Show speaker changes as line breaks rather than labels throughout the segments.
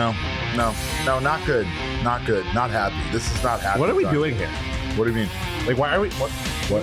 No, not good. Not good. Not happy. This is not happy.
What are we doing here?
What do you mean?
Like, why are we? What?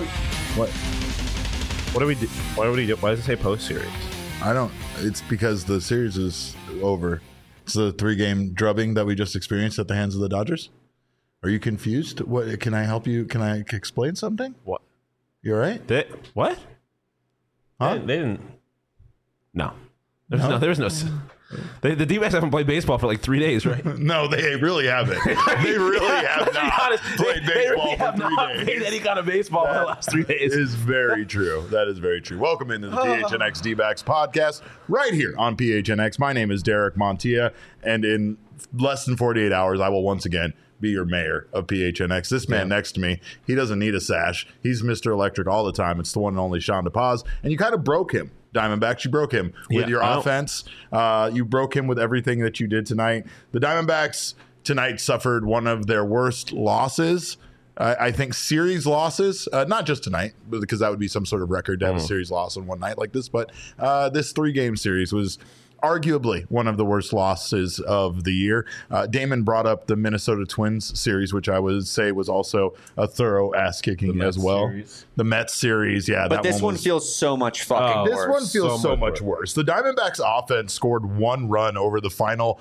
What do we do? Why does it say post series?
I don't. It's because the series is over. It's the 3-game drubbing that we just experienced at the hands of the Dodgers. Are you confused? What? Can I help you? Can I explain something?
What?
You all right?
What?
Huh?
They didn't. No. There's no. The D-backs haven't played baseball for like 3 days, right?
No, they really haven't. They really have not played baseball for 3 days.
Played any kind of baseball for the last 3 days.
Is very true. That is very true. Welcome into the PHNX D-backs podcast right here on PHNX. My name is Derek Montilla, and in less than 48 hours, I will once again be your mayor of PHNX. This man next to me, he doesn't need a sash. He's Mr. Electric all the time. It's the one and only Sean DePaz, and you kind of broke him. Diamondbacks, you broke him with your offense. You broke him with everything that you did tonight. The Diamondbacks tonight suffered one of their worst losses. I think series losses, not just tonight, because that would be some sort of record to have a series loss on one night like this. But this 3-game series was arguably one of the worst losses of the year. Damon brought up the Minnesota Twins series, which I would say was also a thorough ass-kicking as well. The Mets series, yeah.
But this one feels so much fucking worse.
This one feels so much worse. The Diamondbacks offense scored 1 run over the final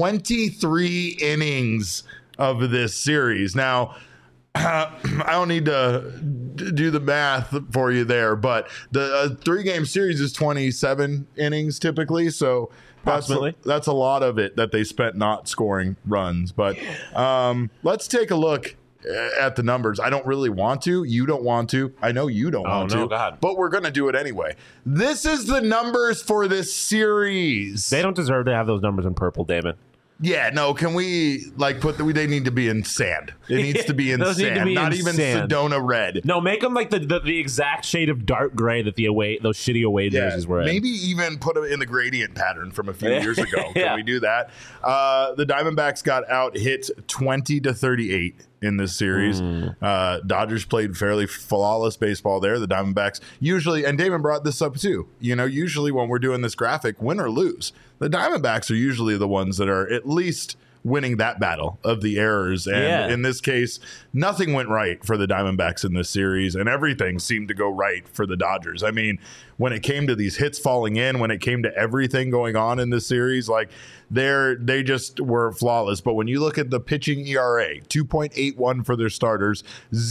23 innings of this series. Now, I don't need to do the math for you there, but the 3-game series is 27 innings typically, so that's a lot of it that they spent not scoring runs. But let's take a look at the numbers. I don't really want to. You don't want to. I know you don't want to.
God.
But we're going to do it anyway. This is the numbers for this series.
They don't deserve to have those numbers in purple, Damon.
Yeah, no, can we they need to be in sand. It needs to be in sand, not even Sedona red.
No, make them like the exact shade of dark gray that those shitty away jerseys were in.
Maybe even put them in the gradient pattern from a few years ago. Can we do that? The Diamondbacks got out hit 20-38 in this series. Dodgers played fairly flawless baseball there. The Diamondbacks usually, and Damon brought this up too, usually when we're doing this graphic, win or lose, the Diamondbacks are usually the ones that are at least winning that battle of the errors. And in this case, nothing went right for the Diamondbacks in this series, and everything seemed to go right for the Dodgers. I mean, when it came to these hits falling in, when it came to everything going on in this series, like they just were flawless. But when you look at the pitching ERA, 2.81 for their starters,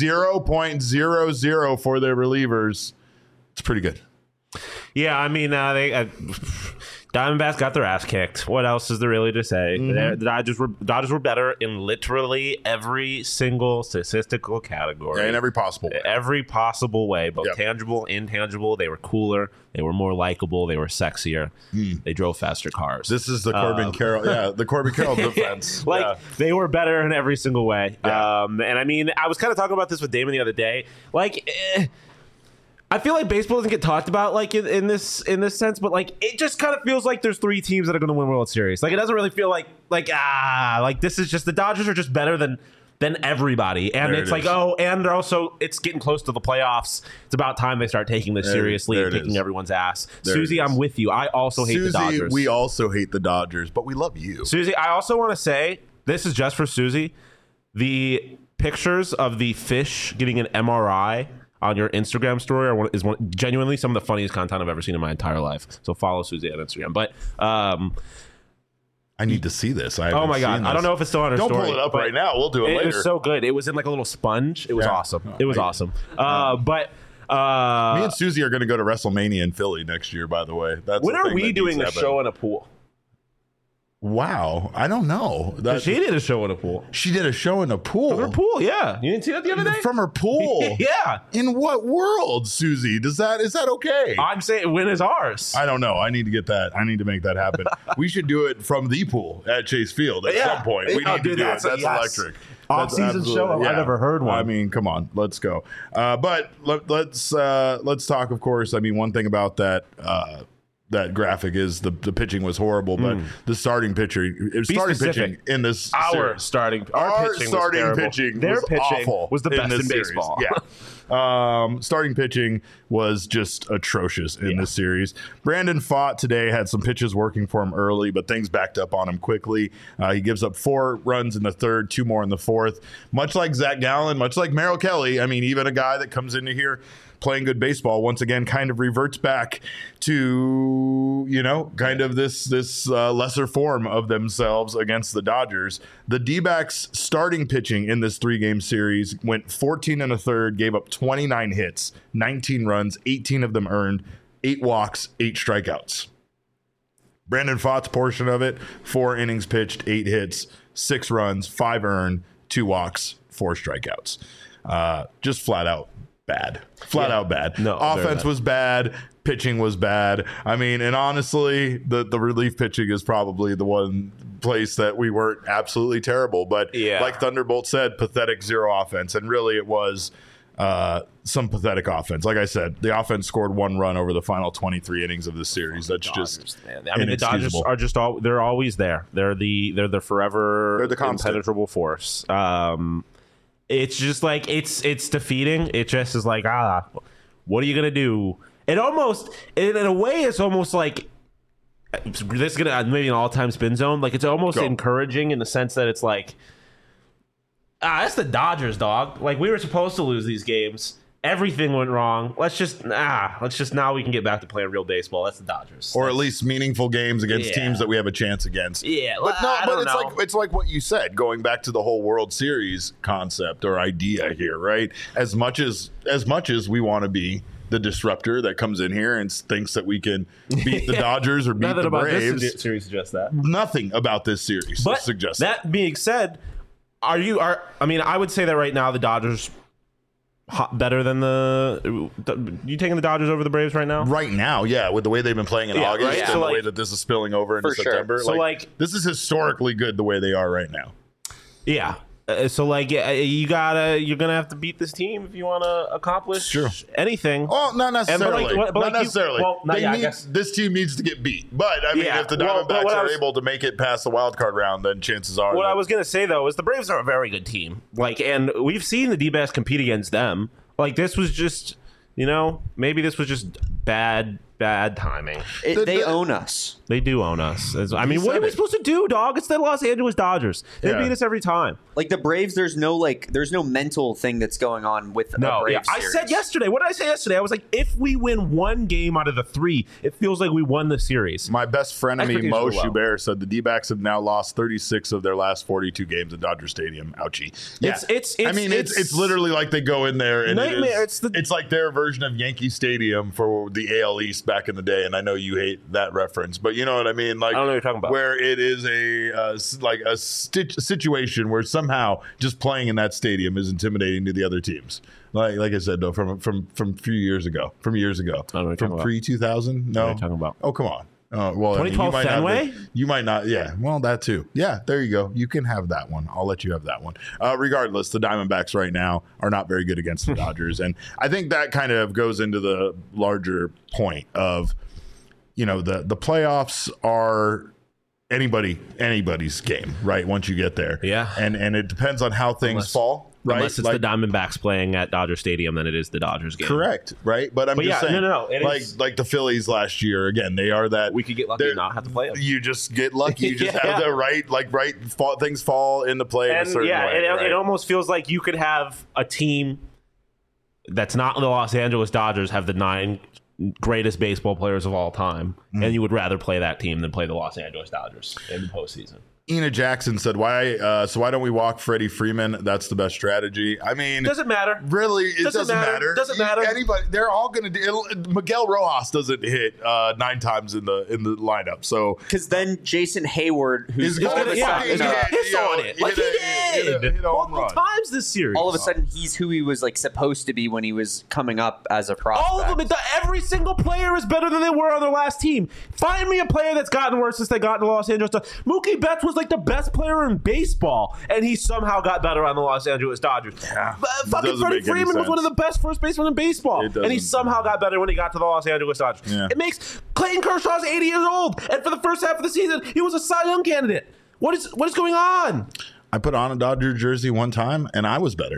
0.00 for their relievers, it's pretty good.
Yeah, I mean, Diamondbacks got their ass kicked. What else is there really to say? The Dodgers were better in literally every single statistical category.
In every possible way.
Every possible way, both tangible, intangible. They were cooler. They were more likable. They were sexier. They drove faster cars.
This is the Corbin Carroll. The Corbin Carroll defense.
They were better in every single way.
Yeah.
And I mean, I was kind of talking about this with Damon the other day. I feel like baseball doesn't get talked about in this sense, but it just kind of feels like there's 3 teams that are going to win World Series. It doesn't really feel like this is just the Dodgers are just better than everybody, and and also it's getting close to the playoffs. It's about time they start taking this seriously and kicking everyone's ass. Susie, I'm with you. I also hate the Dodgers.
We also hate the Dodgers, but we love you,
Susie. I also want to say this is just for Susie. The pictures of the fish getting an MRI on your Instagram story is genuinely some of the funniest content I've ever seen in my entire life. So follow Susie on Instagram. But
I need to see this.
Oh my God. I don't know if it's still on her story.
Don't pull it up right now. We'll do it later.
It was so good. It was in a little sponge. It was awesome. It was awesome. But
me and Susie are going to go to WrestleMania in Philly next year, by the way.
When are we doing a show in a pool?
Wow, I don't know.
She did a show in a pool.
She did a show in a pool.
From her pool, yeah. You didn't see that the other day?
From her pool?
Yeah.
In what world, Susie? Is that okay?
I'm saying, when is ours?
I don't know. I need to get that. I need to make that happen. We should do it from the pool at Chase Field at some point. We need to do it. That's electric.
Off-season show. I've never heard one.
I mean, come on, let's go. But let's talk. Of course, I mean, one thing about that. That graphic is the pitching was horrible, but the starting pitching in this
our pitching
pitching
their
was
pitching
awful
was the best in
series.
baseball.
Yeah. Starting pitching was just atrocious in this series. Brandon Pfaadt today had some pitches working for him early, but things backed up on him quickly. He gives up 4 runs in the third, 2 more in the fourth. Much like Zach Gallen, much like Merrill Kelly, I mean, even a guy that comes into here playing good baseball once again kind of reverts back to, you know, kind of this lesser form of themselves against the Dodgers. The D-backs starting pitching in this 3-game series went 14 and a third, gave up 29 hits, 19 runs, 18 of them earned, 8 walks, 8 strikeouts. Brandon Pfaadt's portion of it, 4 innings pitched, 8 hits, 6 runs, 5 earned, 2 walks, 4 strikeouts. Just flat out bad. Flat out bad.
No,
offense was bad. Pitching was bad. I mean, and honestly, the relief pitching is probably the one place that we weren't absolutely terrible. But like Thunderbolt said, pathetic 0 offense. And really it was some pathetic offense. Like I said, the offense scored 1 run over the final 23 innings of the series. That's
Dodgers,
just
man. I mean, the Dodgers are just they're always there. They're the forever
They're the constant.
impenetrable force. It's just like it's defeating. It just is like, what are you gonna do? It almost, in a way, it's almost like this is gonna maybe an all-time spin zone. Like it's almost encouraging in the sense that it's like, that's the Dodgers, dog. Like we were supposed to lose these games. Everything went wrong. Let's just now we can get back to playing real baseball. That's the Dodgers.
Or at least meaningful games against teams that we have a chance against.
Yeah,
but it's like what you said, going back to the whole World Series concept or idea here, right? As much as we want to be the disruptor that comes in here and thinks that we can beat the Dodgers or beat
Nothing
the
about
Braves.
This series suggests that.
Nothing about this series suggests that.
That being said, I would say that right now the Dodgers better than you taking the Dodgers over the Braves right now?
Right now, yeah, with the way they've been playing in August
right?
and
So
the
like,
way that this is spilling over into September.
So
this is historically good the way they are right now.
Yeah. So like you're gonna have to beat this team if you want to accomplish anything.
Well, not necessarily. Not necessarily.
I guess
this team needs to get beat. But I mean, if the Diamondbacks are able to make it past the wild card round, then chances are.
What I was gonna say though is the Braves are a very good team. Like, and we've seen the D-backs compete against them. Like this was just, maybe this was just bad timing.
They own us.
They do own us. I mean, what are we supposed to do, dog? It's the Los Angeles Dodgers. They beat us every time.
Like the Braves, there's no mental thing that's going on with the Braves
I said yesterday. What did I say yesterday? I was like, if we win 1 game out of the 3, it feels like we won the series.
My best frenemy, Mo Schubert, said the D-backs have now lost 36 of their last 42 games at Dodger Stadium. Ouchie. Yeah. It's literally like they go in there and
nightmare.
It's like their version of Yankee Stadium for the AL East back in the day. And I know you hate that reference, but you know what I mean? Like,
I don't know what you're talking about.
Where it is a situation where somehow just playing in that stadium is intimidating to the other teams. Like I said, though, from a few years ago, from pre-2000. No,
what are you talking about?
Oh, come on. Well,
2012 Fenway?
You might not. Yeah. Well, that too. Yeah. There you go. You can have that one. I'll let you have that one. Regardless, the Diamondbacks right now are not very good against the Dodgers, and I think that kind of goes into the larger point of, the playoffs are anybody's game, right? Once you get there,
yeah,
and it depends on how things fall. Right?
Unless it's the Diamondbacks playing at Dodger Stadium, then it is the Dodgers game.
Correct, right? But I'm just saying,
no.
Like the Phillies last year, again, they are that.
We could get lucky and not have to play them.
You just get lucky. You just have the things fall into play in a certain way.
It almost feels like you could have a team that's not the Los Angeles Dodgers have the 9 greatest baseball players of all time, and you would rather play that team than play the Los Angeles Dodgers in the postseason.
Ina Jackson said, "Why don't we walk Freddie Freeman? That's the best strategy." I mean,
doesn't matter.
Really, it doesn't matter.
Doesn't matter.
Anybody, they're all going to do. Miguel Rojas doesn't hit 9 times in the lineup, so
because then Jason Hayward, who's
going to piss on it, like he did multiple times this series.
All of a sudden, he's who he was supposed to be when he was coming up as a prospect.
All of them. Every single player is better than they were on their last team. Find me a player that's gotten worse since they got in the Los Angeles Dodgers. Mookie Betts was the best player in baseball, and he somehow got better on the Los Angeles Dodgers.
Yeah,
fucking Freddie Freeman was one of the best first basemen in baseball, and he somehow got better when he got to the Los Angeles Dodgers. Yeah. It makes Clayton Kershaw's 80 years old, and for the first half of the season, he was a Cy Young candidate. What is going on?
I put on a Dodger jersey one time, and I was better.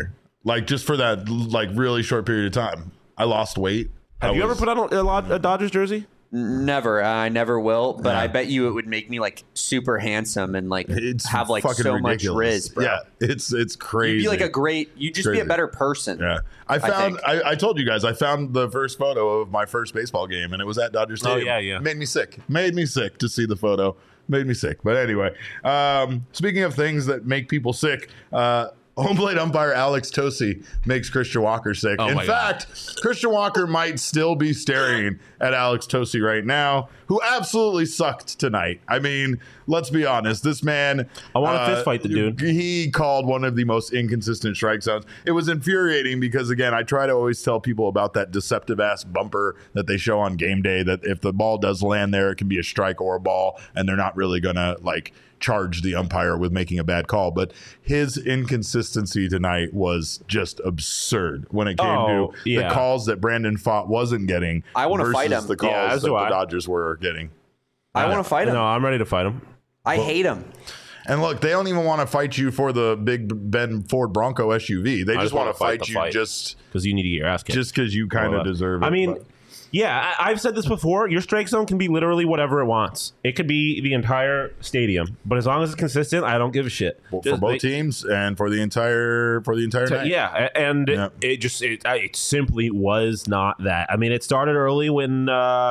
Like just for that like really short period of time. I lost weight.
Have you ever put on a Dodgers jersey?
Never. I never will. But I bet you it would make me like super handsome and like have like so much riz, bro.
Yeah, it's crazy.
You'd be like you'd just be a better person.
Yeah. I told you guys, I found the first photo of my first baseball game, and it was at Dodger Stadium.
Oh, yeah.
Made me sick to see the photo. Made me sick. But anyway, speaking of things that make people sick, home plate umpire Alex Tosi makes Christian Walker sick. In fact, Christian Walker might still be staring at Alex Tosi right now, who absolutely sucked tonight. I mean, let's be honest. This man...
I want to fist fight the dude.
He called one of the most inconsistent strike zones. It was infuriating because, again, I try to always tell people about that deceptive-ass bumper that they show on game day, that if the ball does land there, it can be a strike or a ball, and they're not really going to, like, charge the umpire with making a bad call. But his inconsistency tonight was just absurd when it came to the calls that Brandon Pfaadt wasn't getting.
I want to fight him.
The calls that the Dodgers were getting.
I want to fight him.
No, I'm ready to fight him.
I hate him.
And look, they don't even want to fight you for the Big Ben Ford Bronco SUV. They just want to fight you just
because you need to get your ass kicked.
Just because you kind of deserve it.
I mean, yeah, I've said this before. Your strike zone can be literally whatever it wants. It could be the entire stadium, but as long as it's consistent, I don't give a shit.
Well, for both teams and for the entire night.
Yeah, and it simply was not that. I mean, it started early when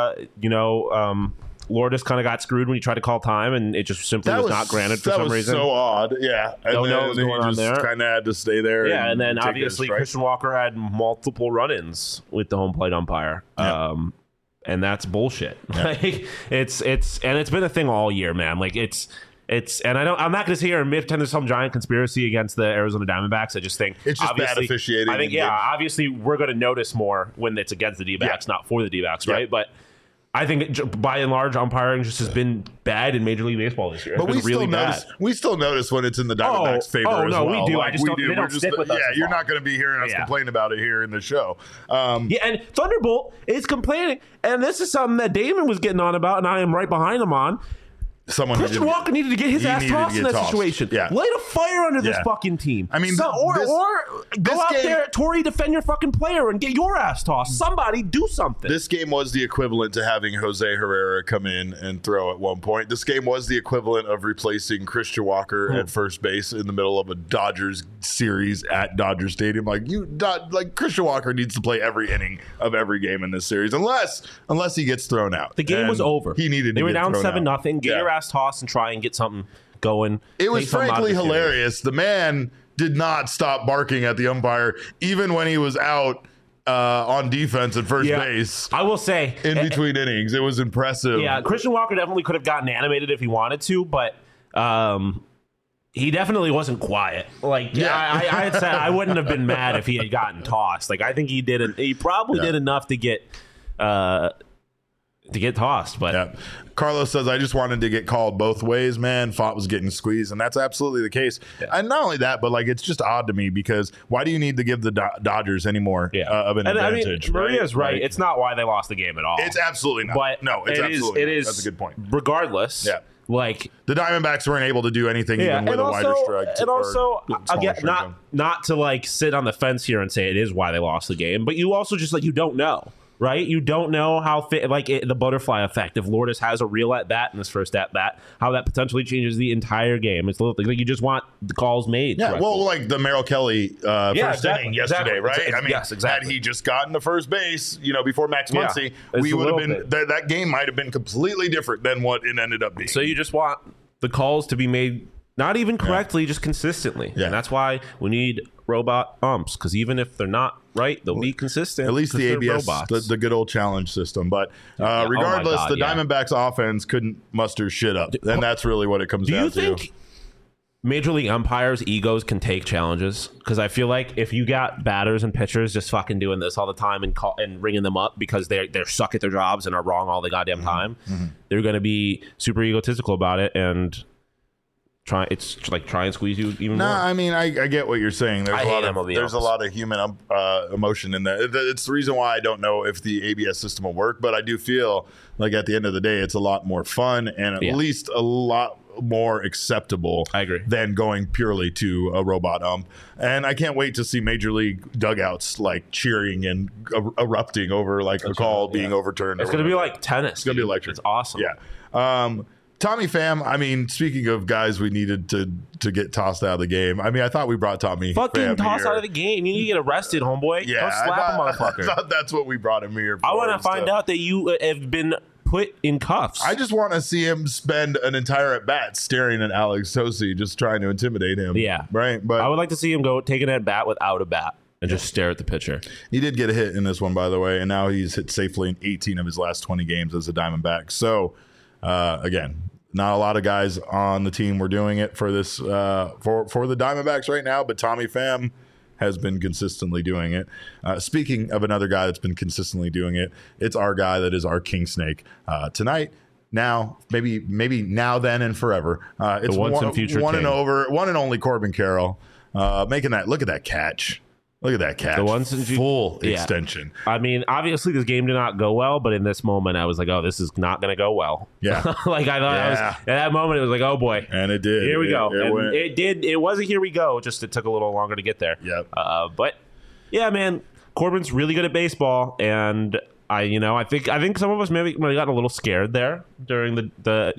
Lourdes kind of got screwed when he tried to call time, and it just simply was not granted for some reason.
That was so odd. Yeah, and
don't know what was going on there.
Kind of had to stay there.
Yeah, and then obviously Christian Walker had multiple run-ins with the home plate umpire.
Yeah.
And that's bullshit.
Yeah.
Like it's been a thing all year, man. Like it's and I'm not going to sit here and pretend there's some giant conspiracy against the Arizona Diamondbacks. I just think
it's just bad officiating.
I think obviously we're going to notice more when it's against the D-backs, not for the D-backs, right? But I think by and large, umpiring just has been bad in Major League Baseball this year. But
we still notice when it's in the Diamondbacks' favor as well.
We do. Like, they don't stick with us.
Yeah, you're not going to be hearing us complain about it here in the show.
And Thunderbolt is complaining, and this is something that Damon was getting on about, and I am right behind him on. Christian Walker needed to get his ass tossed in that situation.
Yeah.
Light a fire under this fucking team.
I mean,
or go out there, Torey, defend your fucking player and get your ass tossed. Somebody do something.
This game was the equivalent to having Jose Herrera come in and throw at one point. This game was the equivalent of replacing Christian Walker at first base in the middle of a Dodgers series at Dodger Stadium. Like Christian Walker needs to play every inning of every game in this series, unless he gets thrown out.
The game was over.
He needed.
They were down 7-0. Get your ass toss and try and get something going.
It was frankly hilarious. The man did not stop barking at the umpire, even when he was out on defense at first base.
I will say,
in between innings, it was impressive.
Yeah, Christian Walker definitely could have gotten animated if he wanted to, but he definitely wasn't quiet. Like, I had said I wouldn't have been mad if he had gotten tossed. Like, I think he did. He probably did enough to get tossed. But
Carlos says, I just wanted to get called both ways, man. Pfaadt was getting squeezed, and that's absolutely the case. And not only that, but like it's just odd to me because why do you need to give the Dodgers any more of an advantage?
I mean, Maria's right. Like, it's not why they lost the game at all.
It's absolutely not.
But
no, it's absolutely not.
It is.
That's a good point.
Regardless, like
the Diamondbacks weren't able to do anything even with a wider strike.
And also, again, not to like sit on the fence here and say it is why they lost the game, but you also just like you don't know. Right? You don't know how the butterfly effect, if Lourdes has a real at-bat in his first at-bat, how that potentially changes the entire game. It's like you just want the calls made.
Yeah, well, like the Merrill Kelly first inning yesterday, right? I mean, had he just gotten to first base, before Max Muncy, we would have been that game might have been completely different than what it ended up being.
So you just want the calls to be made not even correctly, just consistently. Yeah. And that's why we need robot umps, because even if they're not right, they'll be consistent.
At least the ABS, the good old challenge system. But regardless, the Diamondbacks offense couldn't muster shit up. And that's really what it comes down to. Do you think
Major League umpires' egos can take challenges? Because I feel like if you got batters and pitchers just fucking doing this all the time and ringing them up because they're suck at their jobs and are wrong all the goddamn time, they're going to be super egotistical about it and try and squeeze you even more.
I mean, I get what you're saying. There's a lot of human emotion in there. It's the reason why I don't know if the ABS system will work, but I do feel like at the end of the day, it's a lot more fun and at least a lot more acceptable.
I agree.
Than going purely to a robot ump. And I can't wait to see Major League dugouts like cheering and erupting over like a call being overturned.
It's going to be like tennis. It's
going to be electric.
It's awesome.
Yeah. Tommy Pham, I mean, speaking of guys we needed to get tossed out of the game, I mean, I thought we brought Tommy
Fucking
Pham
toss
here.
out of the game. You need to get arrested, homeboy.
Yeah,
Don't slap a motherfucker.
I thought that's what we brought him here for.
I want to find out that you have been put in cuffs.
I just want to see him spend an entire at bat staring at Alex Tosi, just trying to intimidate him.
Yeah.
Right? But
I would like to see him go take an at bat without a bat and just stare at the pitcher.
He did get a hit in this one, by the way, and now he's hit safely in 18 of his last 20 games as a Diamondback. So, again, not a lot of guys on the team were doing it for this for the Diamondbacks right now, but Tommy Pham has been consistently doing it. Speaking of another guy that's been consistently doing it, it's our guy that is our King Snake. Tonight, now, maybe now, then, and forever. It's
once and future
one
king.
one and only Corbin Carroll making that. Look at that catch. Look at that catch.
The once and
full extension.
I mean, obviously this game did not go well, but in this moment I was like, oh, this is not going to go well.
Yeah.
Like I thought I was, at that moment it was like, oh boy.
And it did.
Here we go.
It
did. It wasn't here we go. Just it took a little longer to get there.
Yep.
But yeah, man, Corbin's really good at baseball, and I think some of us maybe might have gotten a little scared there during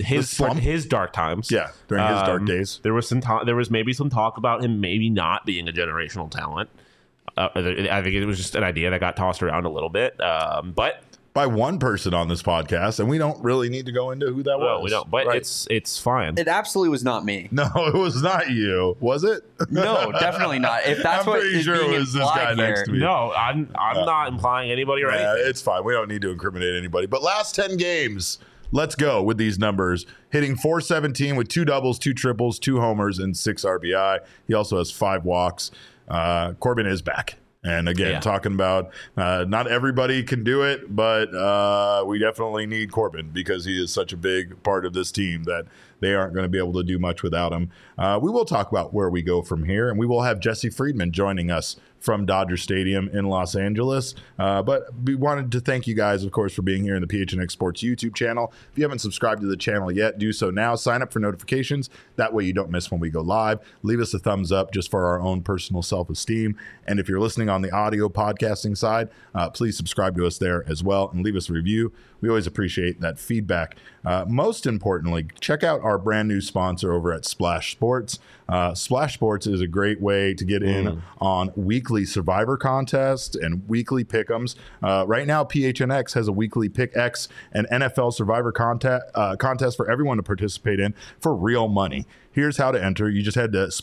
his dark times.
Yeah, during his dark days.
There was maybe some talk about him maybe not being a generational talent. I think it was just an idea that got tossed around a little bit, but
by one person on this podcast, and we don't really need to go into who that was.
We don't. But
right.
it's fine.
It absolutely was not me.
No, it was not you. Was it?
No, definitely not. If that's
I'm
what
pretty
is
sure
being
it was this guy
implied
next to
here.
me.
No, I'm not implying anybody or
Yeah,
anything.
it's fine. We don't need to incriminate anybody. But last 10 games, let's go with these numbers. Hitting .417 with 2 doubles, 2 triples, 2 homers, and 6 RBI. He also has 5 walks. Corbin is back. And again, talking about not everybody can do it, but we definitely need Corbin because he is such a big part of this team that they aren't going to be able to do much without him. We will talk about where we go from here, and we will have Jesse Friedman joining us from Dodger Stadium in Los Angeles. But we wanted to thank you guys, of course, for being here in the PHNX Sports YouTube channel. If you haven't subscribed to the channel yet, do so now. Sign up for notifications. That way you don't miss when we go live. Leave us a thumbs up just for our own personal self-esteem. And if you're listening on the audio podcasting side, please subscribe to us there as well and leave us a review. We always appreciate that feedback. Most importantly, check out our brand new sponsor over at Splash Sports. Splash Sports is a great way to get in on weekly Survivor contests and weekly pick'ems. Right now, PHNX has a weekly Pick X and NFL Survivor contest for everyone to participate in for real money. Here's how to enter. You just head to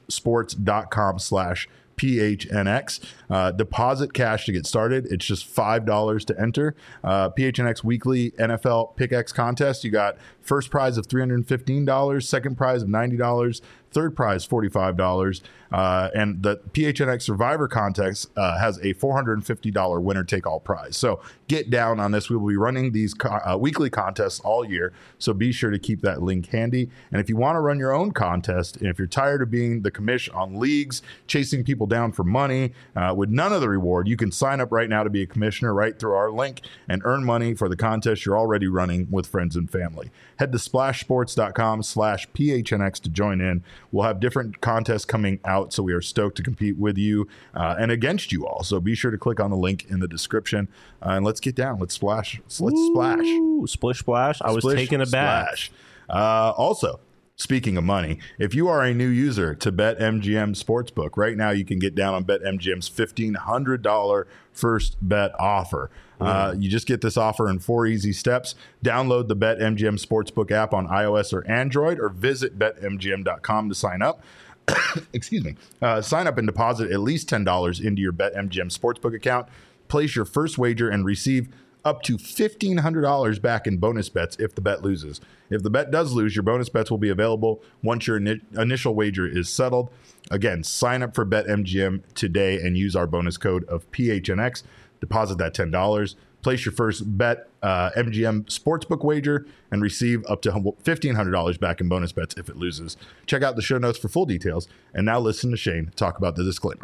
splashsports.com/PHNX. Deposit cash to get started. It's just $5 to enter. PHNX Weekly NFL Pick X contest. You got first prize of $315, second prize of $90, third prize $45, and the PHNX Survivor contest has a $450 winner take all prize. So get down on this. We will be running these weekly contests all year, so be sure to keep that link handy. And if you want to run your own contest, and if you're tired of being the commish on leagues, chasing people down for money with none of the reward, you can sign up right now to be a commissioner right through our link and earn money for the contest you're already running with friends and family. Head to splashsports.com/PHNX to join in. We'll have different contests coming out, so we are stoked to compete with you and against you all. So be sure to click on the link in the description and let's get down. Let's splash. Let's splash.
Splish splash. I was taking a bath.
Also, speaking of money, if you are a new user to BetMGM Sportsbook, right now you can get down on BetMGM's $1,500 first bet offer. You just get this offer in 4 easy steps. Download the BetMGM Sportsbook app on iOS or Android, or visit BetMGM.com to sign up. Excuse me. Sign up and deposit at least $10 into your BetMGM Sportsbook account. Place your first wager and receive up to $1,500 back in bonus bets if the bet loses. If the bet does lose, your bonus bets will be available once your initial wager is settled. Again, sign up for BetMGM today and use our bonus code of PHNX. Deposit that $10. Place your first bet MGM Sportsbook wager and receive up to $1,500 back in bonus bets if it loses. Check out the show notes for full details. And now listen to Shane talk about the disclaimer.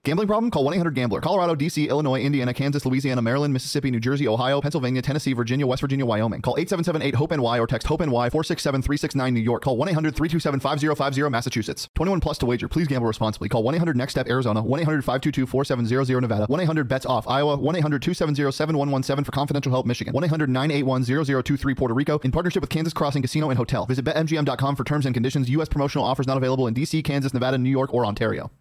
Gambling problem? Call 1-800-GAMBLER. Colorado, D.C., Illinois, Indiana, Kansas, Louisiana, Maryland, Mississippi, New Jersey, Ohio, Pennsylvania, Tennessee, Virginia, West Virginia, Wyoming. Call 877-8-HOPE-NY or text HOPE-NY 467-369 New York. Call 1-800-327-5050 Massachusetts. 21 plus to wager. Please gamble responsibly. Call 1-800-NEXT-STEP Arizona. 1-800-522-4700 Nevada. 1-800-BETS-OFF Iowa. 1-800-270-7117 for confidential help Michigan. 1-800-981-0023 Puerto Rico. In partnership with Kansas Crossing Casino and Hotel. Visit BetMGM.com for terms and conditions. U.S. promotional offers not available in D.C., Kansas, Nevada, New York, or Ontario.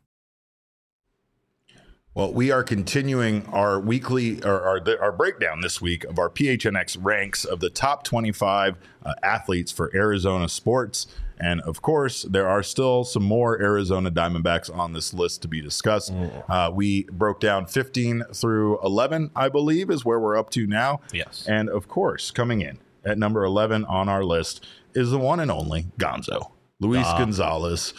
Well, we are continuing our weekly or our breakdown this week of our PHNX ranks of the top 25 athletes for Arizona sports. And of course, there are still some more Arizona Diamondbacks on this list to be discussed. We broke down 15 through 11, I believe, is where we're up to now.
Yes.
And of course, coming in at number 11 on our list is the one and only Gonzo. Luis Gonzalez,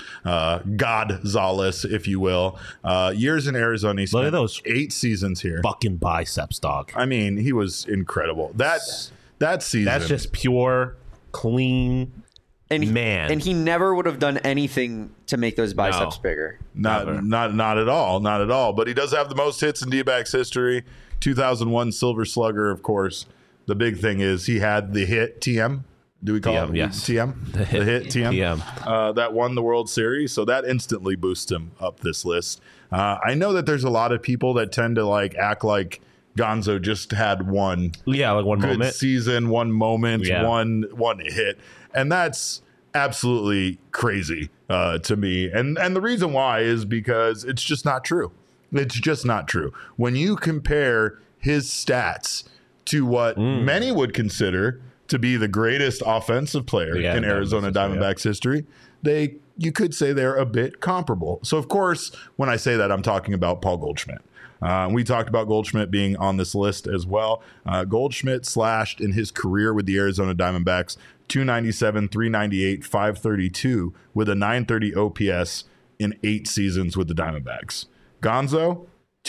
Godzales, if you will. Years in Arizona. He spent
Look at those
8 seasons here.
fucking biceps, dog.
I mean, he was incredible. That season.
That's just pure, clean man.
And he never would have done anything to make those biceps bigger.
Not at all. Not at all. But he does have the most hits in D-backs history. 2001 Silver Slugger, of course. The big thing is he had the hit TM. Do we call
TM,
it
yes.
TM? The hit TM.
TM.
That won the World Series, so that instantly boosts him up this list. I know that there's a lot of people that tend to act like Gonzo just had one
one
good
moment.
season, one moment, one hit, and that's absolutely crazy to me. And the reason why is because it's just not true. It's just not true. When you compare his stats to what many would consider to be the greatest offensive player in Arizona Diamondbacks history, you could say they're a bit comparable. So, of course, when I say that, I'm talking about Paul Goldschmidt. We talked about Goldschmidt being on this list as well. Goldschmidt slashed in his career with the Arizona Diamondbacks 297, 398, 532 with a 930 OPS in 8 seasons with the Diamondbacks. Gonzo,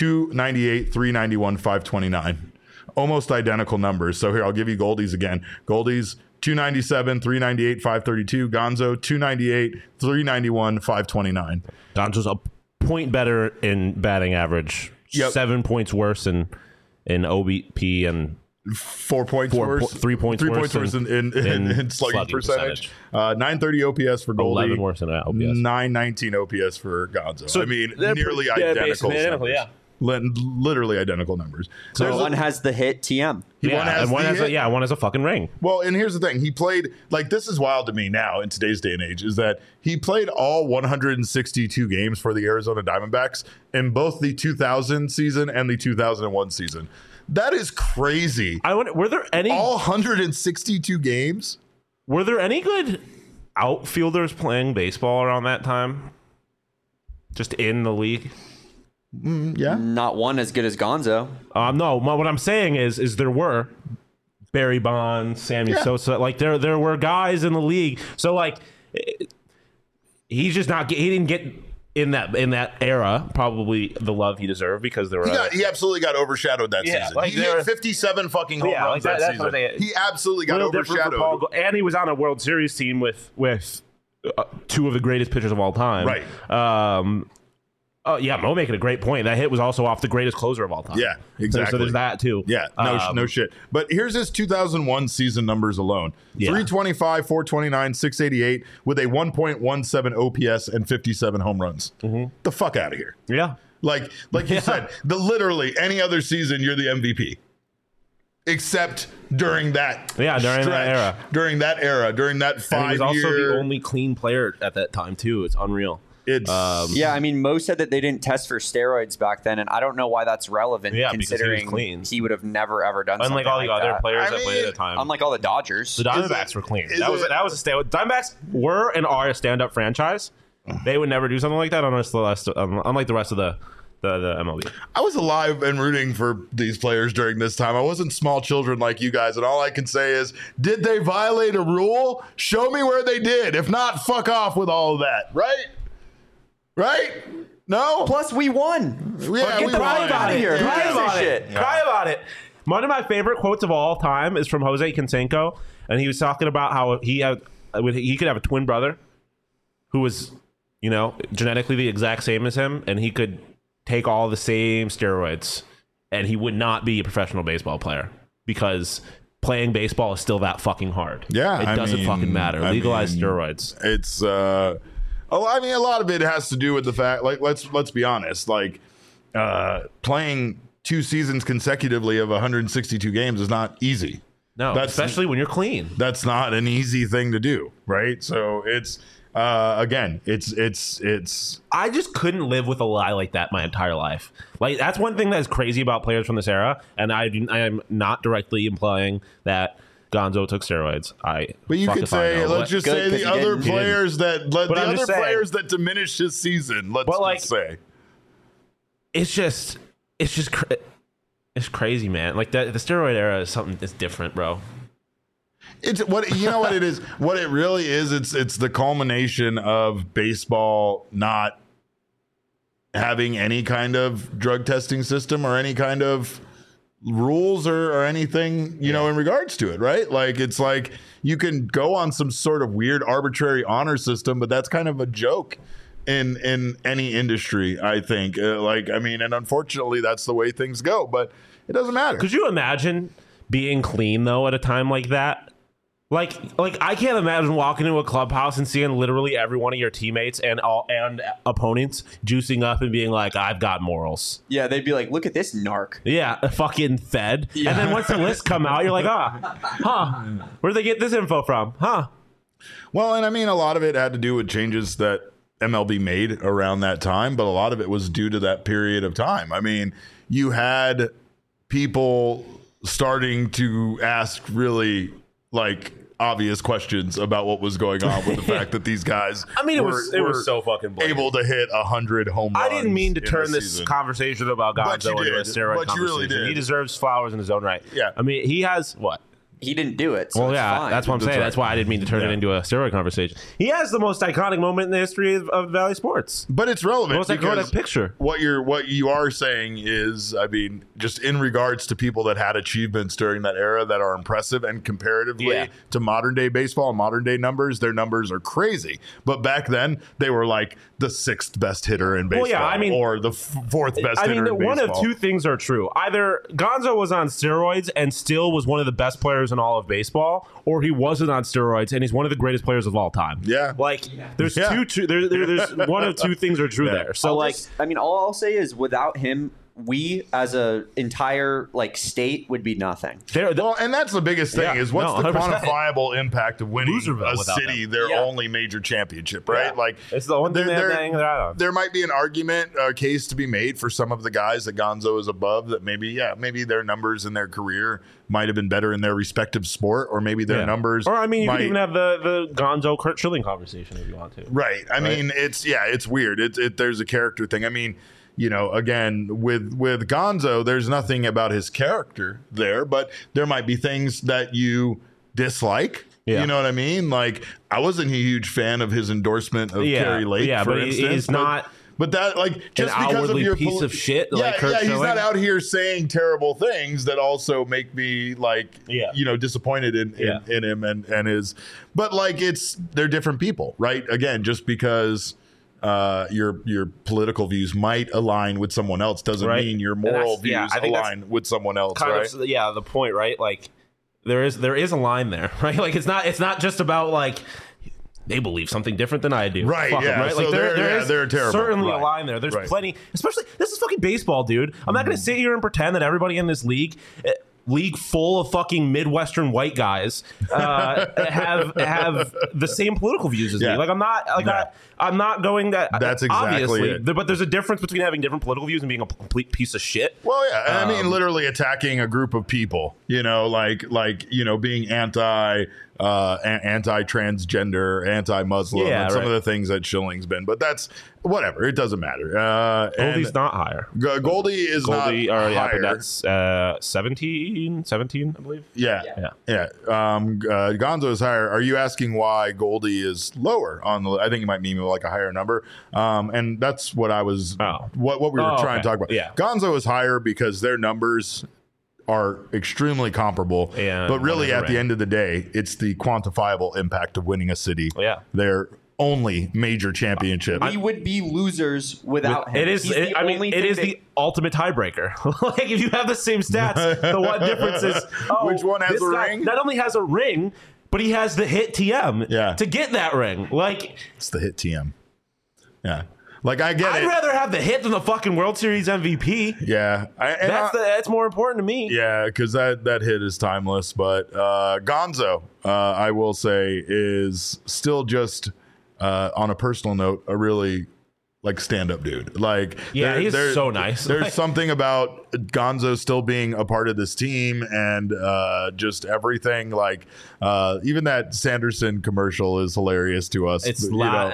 298, 391, 529. Almost identical numbers. So here, I'll give you Goldie's again. Goldie's 297, 398, 532. Gonzo, 298, 391, 529.
Gonzo's a point better in batting average. 7 points worse in OBP and
4 points worse.
3 points worse
in slugging percentage. 930 OPS for Goldie.
11 worse than OPS.
919 OPS for Gonzo.
So
I mean, nearly identical.
Yeah.
Literally identical numbers.
So one has the hit TM.
One has a fucking ring.
Well, and here's the thing. He played, this is wild to me now in today's day and age, is that he played all 162 games for the Arizona Diamondbacks in both the 2000 season and the 2001 season. That is crazy.
Were there any...
All 162 games?
Were there any good outfielders playing baseball around that time? Just in the league?
Yeah.
Not one as good as Gonzo.
No, what I'm saying is there were Barry Bonds, Sammy Sosa. There were guys in the league. So he's just not. He didn't get in that era probably the love he deserved because there were.
He absolutely got overshadowed that season. He hit 57 fucking home runs that season. He absolutely got overshadowed.
And he was on a World Series team with 2 of the greatest pitchers of all time.
Right.
Mo making a great point. That hit was also off the greatest closer of all time.
Yeah, exactly.
So there's that too.
Yeah, no shit. But here's his 2001 season numbers alone. 325, 429, 688 with a 1.17 OPS and 57 home runs. The fuck out of here.
Yeah.
Like you said, literally any other season you're the MVP. Except during that During that 5 year.
He was also the only clean player at that time too. It's unreal.
I mean, Mo said that they didn't test for steroids back then, and I don't know why that's relevant. Considering he would have never ever done.
Unlike all the other players that played at the time,
unlike all the Dodgers,
the Diamondbacks were clean. That was a stand. Diamondbacks were and are a stand-up franchise. They would never do something like that unlike the rest of the MLB.
I was alive and rooting for these players during this time. I wasn't small children like you guys, and all I can say is, did they violate a rule? Show me where they did. If not, fuck off with all of that. Right? No?
Plus, we won.
Yeah, we
cry
won.
about it.
Yeah.
Cry about it. One of my favorite quotes of all time is from Jose Canseco, and he was talking about how he could have a twin brother who was, genetically the exact same as him, and he could take all the same steroids, and he would not be a professional baseball player because playing baseball is still that fucking hard.
Yeah,
it doesn't fucking matter. Legalize steroids.
It's a lot of it has to do with the fact, like, let's be honest, like playing 2 seasons consecutively of 162 games is not easy.
No, especially when you're clean.
That's not an easy thing to do, right? So it's again, it's.
I just couldn't live with a lie like that my entire life. Like, that's one thing that's crazy about players from this era, and I am not directly implying that Gonzo took steroids.
But you could say, let's just say the other players that diminished his season. Let's just say
it's crazy, man. Like the steroid era is something that's different, bro.
It's what you know what it is. What it really is, it's the culmination of baseball not having any kind of drug testing system or any kind of rules or anything, you know, in regards to it, right? Like, it's like you can go on some sort of weird arbitrary honor system, but that's kind of a joke in any industry, I think. And unfortunately that's the way things go, but it doesn't matter.
Could you imagine being clean though at a time like that? Like I can't imagine walking into a clubhouse and seeing literally every one of your teammates and opponents juicing up and being like, I've got morals.
Yeah, they'd be like, look at this narc.
Yeah, fucking fed. Yeah. And then once the lists come out, you're like, where'd they get this info from?
Well, and I mean, a lot of it had to do with changes that MLB made around that time, but a lot of it was due to that period of time. I mean, you had people starting to ask really obvious questions about what was going on with the fact that these guys
it was so fucking blatant.
Able to hit 100 home runs.
I didn't mean to turn this conversation about Gonzo into a steroid conversation.
You really did.
He deserves flowers in his own right.
Yeah.
I mean, he has what?
He didn't do it, so it's fine.
That's what I'm saying. Right. That's why I didn't mean to turn it into a steroid conversation. He has the most iconic moment in the history of Valley Sports.
But it's relevant.
Most iconic picture.
What you are saying is, I mean, just in regards to people that had achievements during that era that are impressive, and comparatively to modern day baseball and modern day numbers, their numbers are crazy. But back then, they were like the 6th best hitter in baseball, or the 4th best hitter in baseball.
One of two things are true. Either Gonzo was on steroids and still was one of the best players in all of baseball, or he wasn't on steroids and he's one of the greatest players of all time.
Yeah,
there's there's one of two things are true there. So
all I'll say is, without him, we as a entire state would be nothing.
And that's the biggest thing is what's the quantifiable impact of winning a city their only major championship, right?
Yeah. It's the one thing
there might be an argument, a case to be made for some of the guys that Gonzo is above, that maybe their numbers in their career might have been better in their respective sport, or maybe their numbers.
Or you could even have the Gonzo Kurt Schilling conversation if you want to.
Right. I mean, it's weird. There's a character thing. I mean, again, with Gonzo, there's nothing about his character there, but there might be things that you dislike. Yeah. You know what I mean? Like, I wasn't a huge fan of his endorsement of Kerry Lake, for instance.
He's not.
But that, just because of your
piece of shit,
Kurt Schilling. He's not out here saying terrible things that also make me disappointed in him and his. But they're different people, right? Again, just because your political views might align with someone else doesn't mean your moral views align with someone else, right?
The point, right? There is a line there, right? It's not just about they believe something different than I do.
Right, right?
So
they're terrible.
Certainly a line there. There's plenty, especially, this is fucking baseball, dude. I'm not going to sit here and pretend that everybody in this league full of fucking Midwestern white guys have the same political views as me. I'm not going that.
That's exactly it.
But there's a difference between having different political views and being a complete piece of shit.
Well, yeah, and I mean, literally attacking a group of people. Being anti-transgender, anti-Muslim, and some of the things that Schilling's been. But that's whatever. It doesn't matter.
Goldie's not higher.
Goldie is not higher.
That's 17, I believe.
Yeah. Gonzo is higher. Are you asking why Goldie is lower on the? I think you might mean a higher number. And that's what I was. What we were trying to talk about.
Yeah.
Gonzo is higher because their numbers are extremely comparable, but really at the end of the day, it's the quantifiable impact of winning a city.
Yeah.
They're only major championship.
We would be losers without him.
It is. It is the ultimate tiebreaker. Like if you have the same stats, the one difference is
which one has a ring?
Not only has a ring, but he has the hit TM to get that ring. Like
it's the hit TM. Yeah. Like I get
I'd rather have the hit than the fucking World Series MVP.
Yeah,
that's more important to me.
Yeah, because that hit is timeless. But Gonzo, I will say, is still just on a personal note a really like stand-up dude. Like
he's so nice.
There's something about Gonzo still being a part of this team and just everything. Like even that Sanderson commercial is hilarious to us.
It's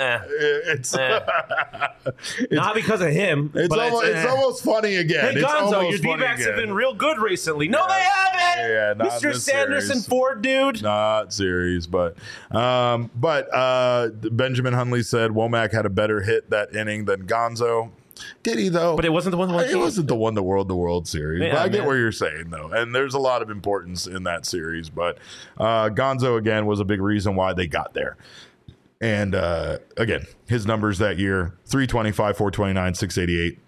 not because of him.
It's almost funny again.
Hey Gonzo, your D-backs have been real good recently. No, they haven't.
Yeah,
Mr. Sanderson Ford, dude.
Not series, but Benjamin Hundley said Womack had a better hit that inning than Gonzo. Did he though?
But it wasn't the one.
It wasn't the one that won the World Series. Yeah, but I get what you're saying though, and there's a lot of importance in that series. But Gonzo again was a big reason why they got there. And again, his numbers that year: 325, 429, 688.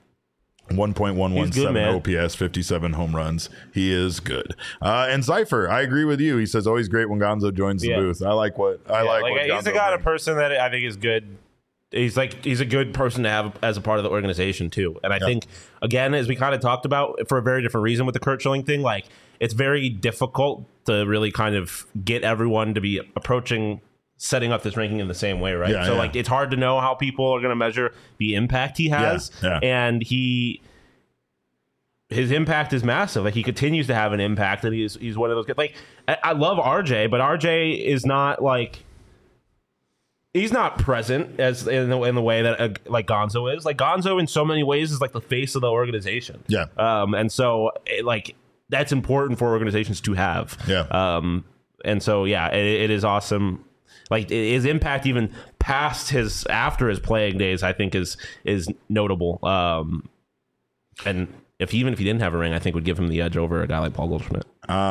1.117 OPS, 57 home runs. He is good. And Cypher, I agree with you. He says always great when Gonzo joins the booth. I like what
he's the kind of person that I think is good. He's a good person to have as a part of the organization too. And I think again, as we kind of talked about, for a very different reason with the Curt Schilling thing, like it's very difficult to really kind of get everyone to be approaching setting up this ranking in the same way, right? Like it's hard to know how people are going to measure the impact he has, and his impact is massive. Like he continues to have an impact, and he's one of those guys. Like I love RJ, but RJ is not like he's not present as in the way that like Gonzo is. Like Gonzo in so many ways is like the face of the organization.
Yeah.
And so like that's important for organizations to have.
Yeah.
And so it is awesome. Like his impact even after his playing days, I think is notable. And even if he didn't have a ring, I think would give him the edge over a guy like Paul Goldschmidt.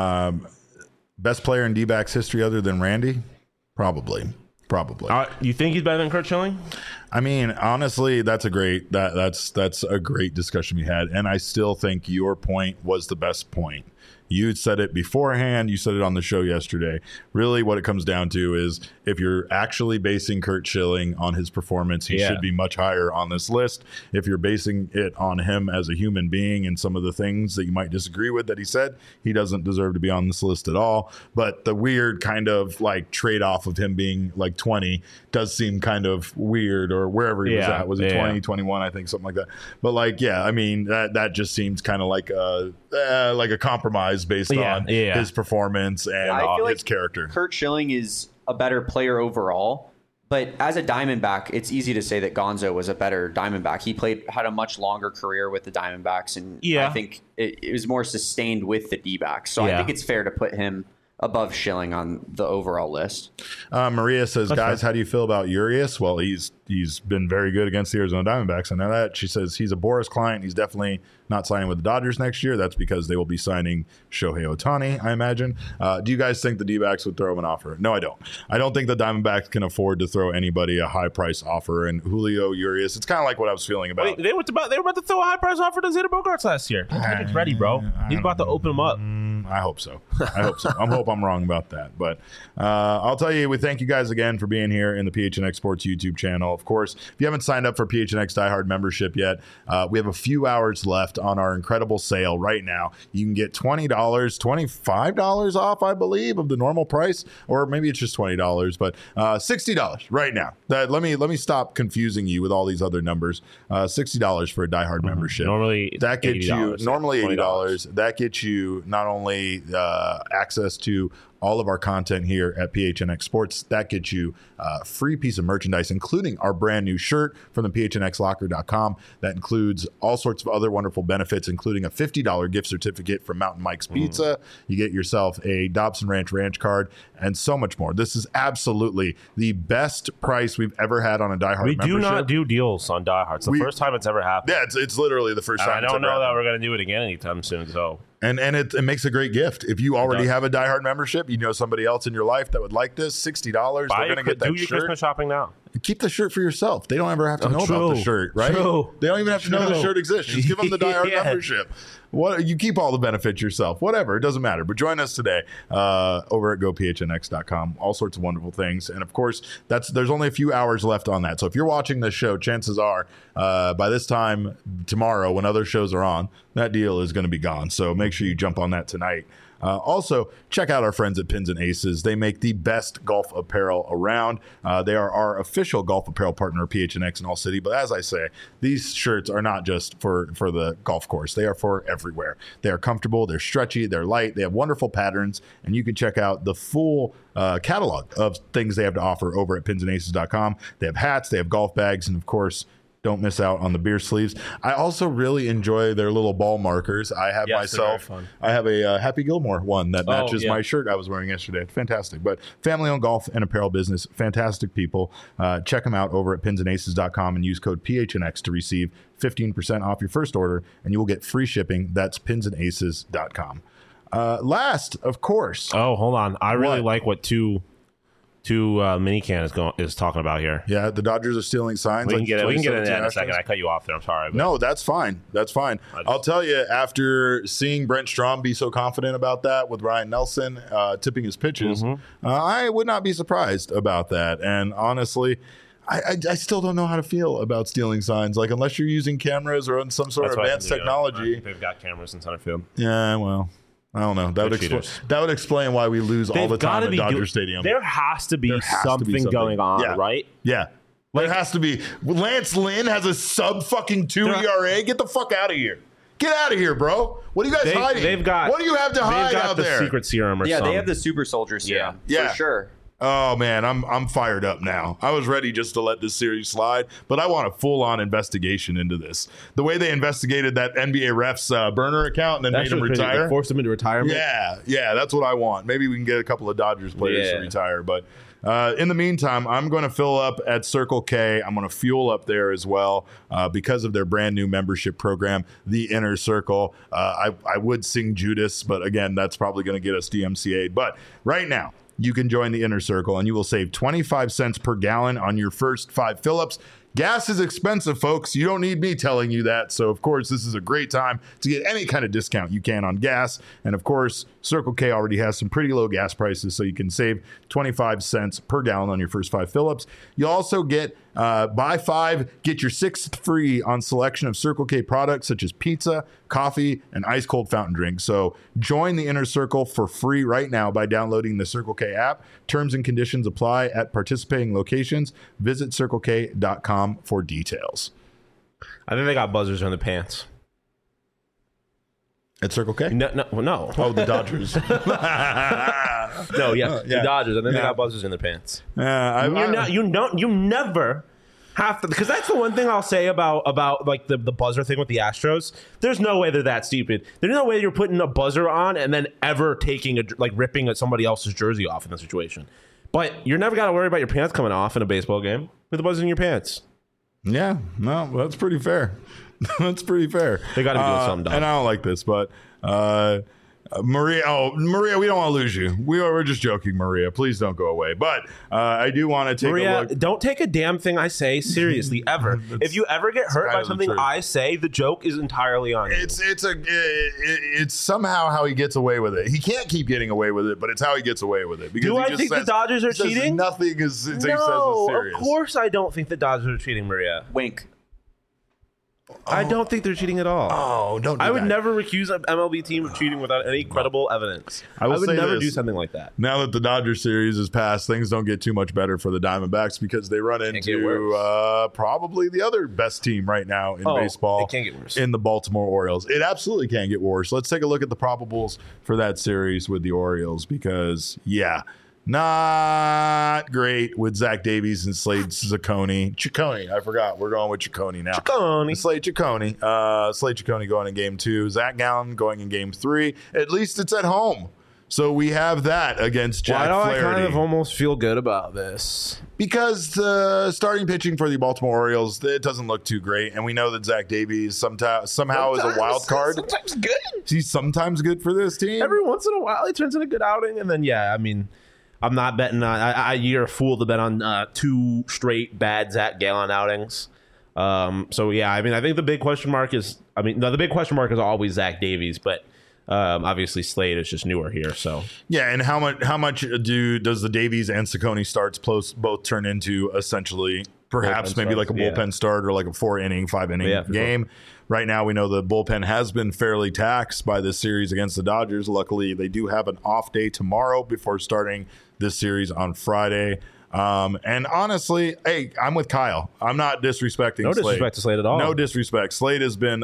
Best player in D-backs history other than Randy? Probably.
You think he's better than Curt Schilling?
I mean, honestly, that's a great discussion we had, and I still think your point was the best point. You said it beforehand. You said it on the show yesterday. Really, what it comes down to is if you're actually basing Curt Schilling on his performance, he should be much higher on this list. If you're basing it on him as a human being and some of the things that you might disagree with that he said, he doesn't deserve to be on this list at all. But the weird kind of like trade-off of him being like 20 does seem kind of weird, or wherever he was at. Was he 20, 21, I think, something like that. But like, I mean, that just seems kind of like a compromise based on his performance and his character.
Curt Schilling is a better player overall, but as a Diamondback, it's easy to say that Gonzo was a better Diamondback. He had a much longer career with the Diamondbacks, and I think it was more sustained with the D-backs. So I think it's fair to put him above Schilling on the overall list.
Maria says, guys, how do you feel about Urias? Well, he's been very good against the Arizona Diamondbacks. I know that. She says he's a Boras client. He's definitely not signing with the Dodgers next year. That's because they will be signing Shohei Ohtani, I imagine. Do you guys think the D-backs would throw him an offer? No, I don't. I don't think the Diamondbacks can afford to throw anybody a high price offer. And Julio Urias, it's kind of like what I was feeling about.
Wait, they were about to throw a high price offer to Xander Bogaerts last year. He's ready, bro. He's about to open him up.
I hope so. I hope I'm wrong about that. But I'll tell you, we thank you guys again for being here in the PHNX Sports YouTube channel. Of course, if you haven't signed up for PHNX Die Hard membership yet, we have a few hours left on our incredible sale right now. You can get $20, $25 off, I believe, of the normal price, or maybe it's just $20, but $60 right now. Let me stop confusing you with all these other numbers. $60 for a Die Hard membership.
Normally,
that gets you normally $80. That gets you not only access to all of our content here at PHNX Sports. That gets you a free piece of merchandise, including our brand new shirt from the PHNXlocker.com. That includes all sorts of other wonderful benefits, including a $50 gift certificate from Mountain Mike's Pizza. You get yourself a Dobson Ranch card, and so much more. This is absolutely the best price we've ever had on a Die Hard membership.
We do not do deals on Die Hard. It's the first time it's ever happened.
Yeah, it's literally the first time.
I don't know that we're going to do it again anytime soon, so...
And it makes a great gift. If you already have a Die Hard membership, you know somebody else in your life that would like this, $60, they're going to get that
shirt. Do your Christmas shopping now.
keep the shirt for yourself. They don't ever have to know about the shirt, right?
True.
They don't even have to know the shirt exists. Just give them the Die Hard membership. What, you keep all the benefits yourself. Whatever, it doesn't matter. But join us today over at gophnx.com. All sorts of wonderful things. And of course, there's only a few hours left on that. So if you're watching this show, chances are by this time tomorrow, when other shows are on, that deal is going to be gone. So make sure you jump on that tonight. Also, check out our friends at Pins and Aces. They make the best golf apparel around. They are our official golf apparel partner, PHNX in All City. But as I say, these shirts are not just for the golf course. They are for everywhere. They are comfortable, they're stretchy, they're light, they have wonderful patterns, and you can check out the full catalog of things they have to offer over at pinsandaces.com. They have hats, they have golf bags, and of course, don't miss out on the beer sleeves. I also really enjoy their little ball markers. I have myself, I have a Happy Gilmore one that matches my shirt I was wearing yesterday. Fantastic. But family-owned golf and apparel business, fantastic people. Check them out over at pinsandaces.com and use code PHNX to receive 15% off your first order, and you will get free shipping. That's pinsandaces.com. Last, of course.
Oh, hold on. I really like what two Minican is talking about here.
Yeah, the Dodgers are stealing signs.
We can get it in a second. I cut you off there. I'm sorry. But
no, that's fine. That's fine. I'll tell you, after seeing Brent Strom be so confident about that with Ryan Nelson tipping his pitches, I would not be surprised about that. And honestly, I still don't know how to feel about stealing signs. Like, unless you're using cameras or some sort of advanced technology.
They've got cameras in center field.
Yeah, well, I don't know. That would explain why we lose all the time at Dodger Stadium.
There has to be something going on, right?
Yeah. There has to be. Lance Lynn has a sub-2 ERA. Get the fuck out of here. Get out of here, bro. What are you guys hiding? What do you have to hide out there?
They've got the secret serum or something.
Yeah, they have the super soldier serum. Yeah. For sure.
Oh man, I'm fired up now. I was ready just to let this series slide, but I want a full-on investigation into this. The way they investigated that NBA ref's burner account and then made him retire,
they forced him into retirement.
Yeah, that's what I want. Maybe we can get a couple of Dodgers players to retire. But in the meantime, I'm going to fill up at Circle K. I'm going to fuel up there as well because of their brand new membership program, the Inner Circle. I would sing Judas, but again, that's probably going to get us DMCA'd. But right now, you can join the Inner Circle and you will save 25 cents per gallon on your first 5 fill-ups. Gas is expensive, folks. You don't need me telling you that. So, of course, this is a great time to get any kind of discount you can on gas. And, of course, Circle K already has some pretty low gas prices, so you can save 25 cents per gallon on your first 5 fill-ups. You'll also get buy 5, get your 6th free on selection of Circle K products such as pizza, coffee, and ice-cold fountain drinks. So join the Inner Circle for free right now by downloading the Circle K app. Terms and conditions apply at participating locations. Visit CircleK.com for details.
I think they got buzzers in the pants.
At Circle K?
No.
Oh, the Dodgers.
The Dodgers. I think they got buzzers in their pants. You never have to, because that's the one thing I'll say about like the buzzer thing with the Astros. There's no way they're that stupid. There's no way you're putting a buzzer on and then ever ripping somebody else's jersey off in that situation. But you're never got to worry about your pants coming off in a baseball game with the buzzer in your pants.
Yeah, no, that's pretty fair. That's pretty fair.
They got to be doing something dumb.
And I don't like this, but Maria, we don't want to lose you. We're just joking, Maria. Please don't go away. But I do want to take a look.
Don't take a damn thing I say seriously ever. If you ever get hurt by something I say, the joke is entirely on you.
It's somehow how he gets away with it. He can't keep getting away with it, but it's how he gets away with it. Because
do I think the Dodgers are cheating?
Nothing is serious.
Of course I don't think the Dodgers are cheating, Maria.
Wink.
I don't think they're cheating at all.
Oh, don't do
I would never accuse an MLB team of cheating without any credible evidence. I would never do something like that.
Now that the Dodgers series is passed, things don't get too much better for the Diamondbacks because they run into probably the other best team right now in baseball.
It can't get worse.
In the Baltimore Orioles. It absolutely can get worse. Let's take a look at the probables for that series with the Orioles because, not great with Zach Davies and Slade Ciccone. I forgot. We're going with Ciccone now. Slade Ciccone. Slade Ciccone going in game 2. Zach Gallen going in game 3. At least it's at home. So we have that against Jack Flaherty.
Why do I kind of almost feel good about this?
Because the starting pitching for the Baltimore Orioles, it doesn't look too great. And we know that Zach Davies somehow is a wild card.
Sometimes good.
He's sometimes good for this team.
Every once in a while, he turns in a good outing. And then, I'm not betting on. You're a fool to bet on 2 straight bad Zach Gallen outings. So yeah, I mean, I think the big question mark is. The big question mark is always Zach Davies, but obviously Slade is just newer here. So
yeah, and how much does the Davies and Ciccone starts both turn into essentially perhaps maybe like a bullpen start or like a 4-inning, 5-inning game? Sure. Right now, we know the bullpen has been fairly taxed by this series against the Dodgers. Luckily, they do have an off day tomorrow before starting this series on Friday. And honestly, hey, I'm with Kyle. I'm not disrespecting Slade.
No disrespect to Slade at all.
No disrespect. Slade has been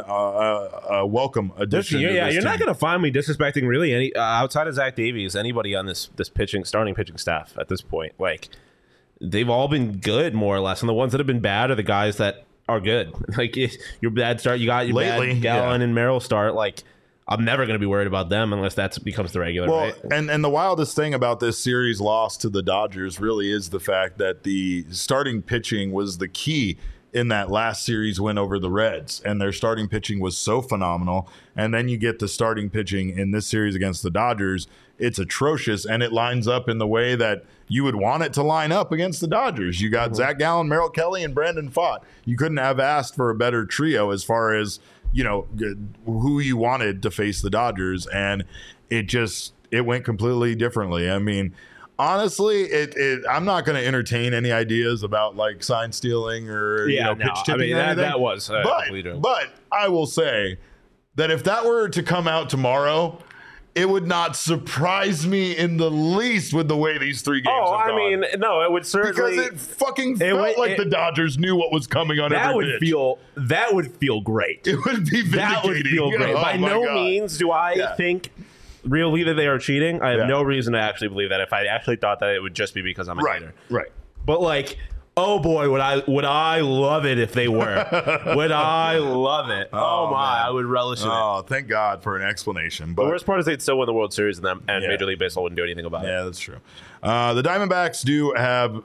a welcome addition.
You're not going to find me disrespecting really any outside of Zach Davies, anybody on this starting pitching staff at this point. Like, they've all been good more or less, and the ones that have been bad are the guys that are good. Like, your bad start, you got your bad Gallen and Merrill start. Like, I'm never going to be worried about them unless that becomes the regular.
Well,
right?
and the wildest thing about this series loss to the Dodgers really is the fact that the starting pitching was the key in that last series win over the Reds, and their starting pitching was so phenomenal. And then you get the starting pitching in this series against the Dodgers. It's atrocious, and it lines up in the way that you would want it to line up against the Dodgers. You got Zach Gallen, Merrill Kelly, and Brandon Pfaadt. You couldn't have asked for a better trio as far as, you know, who you wanted to face the Dodgers, and it went completely differently. I mean, honestly, I'm not going to entertain any ideas about like sign stealing or pitch tipping.
That was
but I will say that if that were to come out tomorrow, it would not surprise me in the least with the way these 3 games have gone.
I mean, no, it would certainly,
because it fucking felt like the Dodgers knew what was coming on every pitch.
That would feel great.
It would be vindicating.
That would feel great. By no means do I think really that they are cheating. I have no reason to actually believe that. If I actually thought that, it would just be because I'm a hater.
Right.
But like, oh boy, would I love it if they were. Would I love it? Oh my, man. I would relish it.
Oh, thank God for an explanation. But
the worst part is they'd still win the World Series and Major League Baseball wouldn't do anything about it.
Yeah, that's true. The Diamondbacks do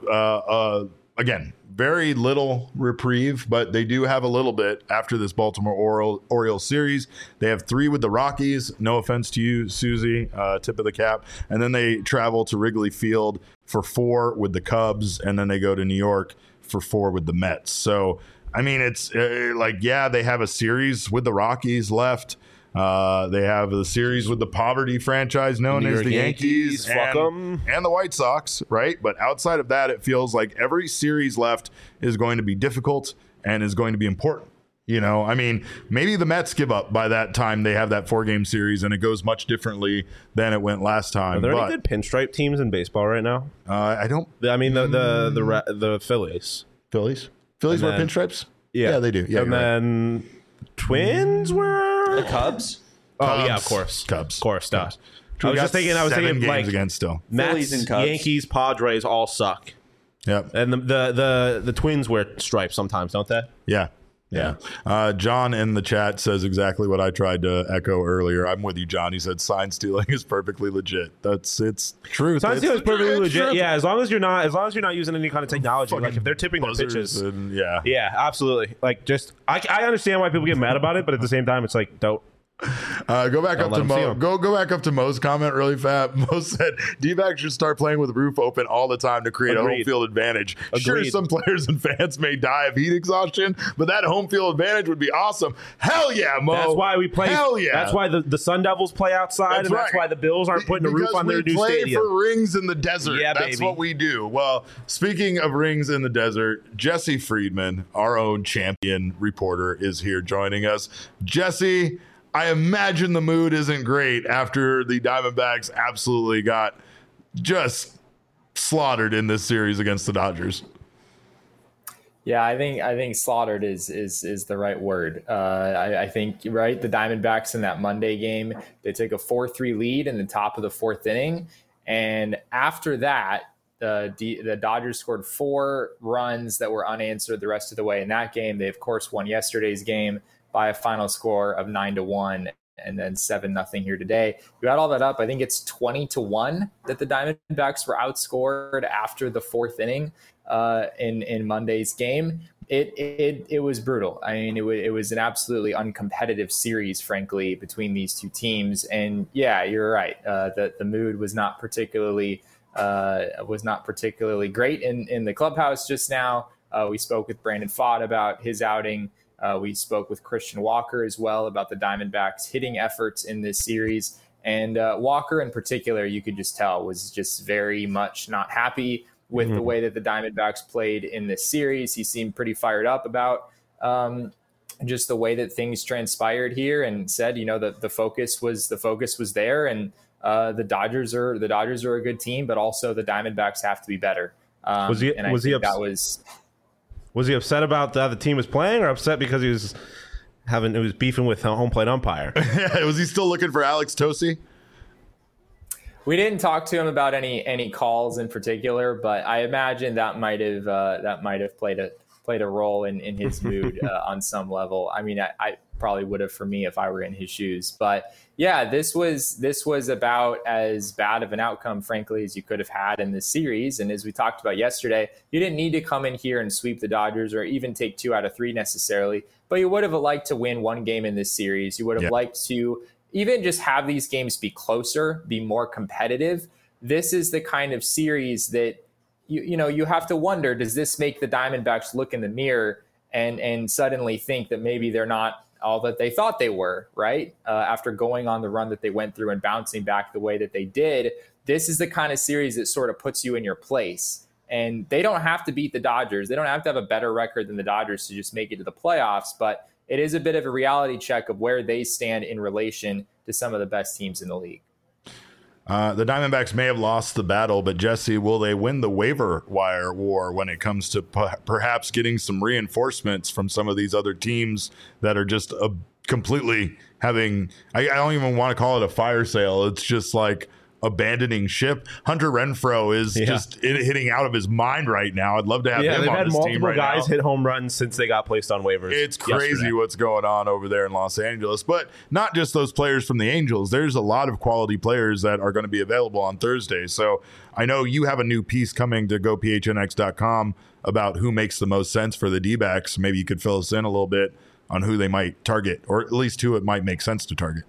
have, again, very little reprieve, but they do have a little bit after this Baltimore Orioles series. They have 3 with the Rockies. No offense to you, Susie, tip of the cap. And then they travel to Wrigley Field for 4 with the Cubs, and then they go to New York for 4 with the Mets. So, I mean, it's they have a series with the Rockies left. They have the series with the poverty franchise known as the Yankees and the White Sox, right? But outside of that, it feels like every series left is going to be difficult and is going to be important. You know, I mean, maybe the Mets give up by that time they have that 4-game series and it goes much differently than it went last time.
Are there any good pinstripe teams in baseball right now?
I don't.
I mean, the Phillies.
Phillies wear pinstripes?
Yeah,
they do. Yeah,
and then Twins were
the Cubs.
Oh yeah, of course,
Cubs.
Of course,
Cubs.
I was thinking
like against still.
Mets, and Cubs. Yankees, Padres all suck.
Yep.
And the Twins wear stripes sometimes, don't they?
Yeah. John in the chat says exactly what I tried to echo earlier. I'm with you, John. He said sign stealing is perfectly legit. It's truth.
Sign stealing is perfectly legit. True. Yeah, as long as you're not using any kind of technology. Like if they're tipping their pitches. Yeah, absolutely. Like just I understand why people get mad about it, but at the same time, it's like don't.
Go back up to Mo. Go back up to Mo's comment really fast. Mo said D-backs should start playing with the roof open all the time to create a home field advantage. Sure, some players and fans may die of heat exhaustion, but that home field advantage would be awesome. Hell yeah, Mo.
That's why we play.
Hell yeah.
That's why the Sun Devils play outside, that's why the Bills aren't putting a roof on their new stadium.
We play for rings in the desert. Yeah, that's what we do. Well, speaking of rings in the desert, Jesse Friedman, our own champion reporter, is here joining us. Jesse, I imagine the mood isn't great after the Diamondbacks absolutely got just slaughtered in this series against the Dodgers.
Yeah, I think slaughtered is the right word. I think the Diamondbacks in that Monday game, they took a 4-3 lead in the top of the 4th inning, and after that, the Dodgers scored 4 runs that were unanswered the rest of the way in that game. They of course won yesterday's game by a final score of 9-1 and then 7-0 here today. You add all that up, I think it's 20-1 that the Diamondbacks were outscored after the 4th inning in Monday's game. It was brutal. I mean, it was an absolutely uncompetitive series, frankly, between these two teams. And yeah, you're right. The mood was not particularly was not particularly great in the clubhouse just now. We spoke with Brandon Pfaadt about his outing. We spoke with Christian Walker as well about the Diamondbacks' hitting efforts in this series. And Walker in particular, you could just tell, was just very much not happy with the way that the Diamondbacks played in this series. He seemed pretty fired up about just the way that things transpired here, and said, that the focus was there, and the Dodgers are a good team, but also the Diamondbacks have to be better. Was he
upset about how the team was playing, or upset because he was beefing with home plate umpire?
Was he still looking for Alex Tosi?
We didn't talk to him about any calls in particular, but I imagine that might have played a role in his mood on some level. I mean, I probably would have for me if I were in his shoes. But yeah, this was about as bad of an outcome, frankly, as you could have had in this series. And as we talked about yesterday, you didn't need to come in here and sweep the Dodgers or even take 2 out of 3 necessarily, but you would have liked to win one game in this series. You would have liked to even just have these games be closer, be more competitive. This is the kind of series that you have to wonder, does this make the Diamondbacks look in the mirror and suddenly think that maybe they're not all that they thought they were, right? After going on the run that they went through and bouncing back the way that they did, this is the kind of series that sort of puts you in your place. And they don't have to beat the Dodgers. They don't have to have a better record than the Dodgers to just make it to the playoffs, but it is a bit of a reality check of where they stand in relation to some of the best teams in the league.
The Diamondbacks may have lost the battle, but Jesse, will they win the waiver wire war when it comes to perhaps getting some reinforcements from some of these other teams that are just completely having, I don't even want to call it a fire sale. It's just like abandoning ship. Hunter Renfroe is just hitting out of his mind right now. I'd love to have him on this team right now.
They've had multiple guys hit home runs since they got placed on waivers.
It's crazy what's going on over there in Los Angeles. But not just those players from the Angels. There's a lot of quality players that are going to be available on Thursday. So I know you have a new piece coming to gophnx.com about who makes the most sense for the D-backs. Maybe you could fill us in a little bit on who they might target, or at least who it might make sense to target.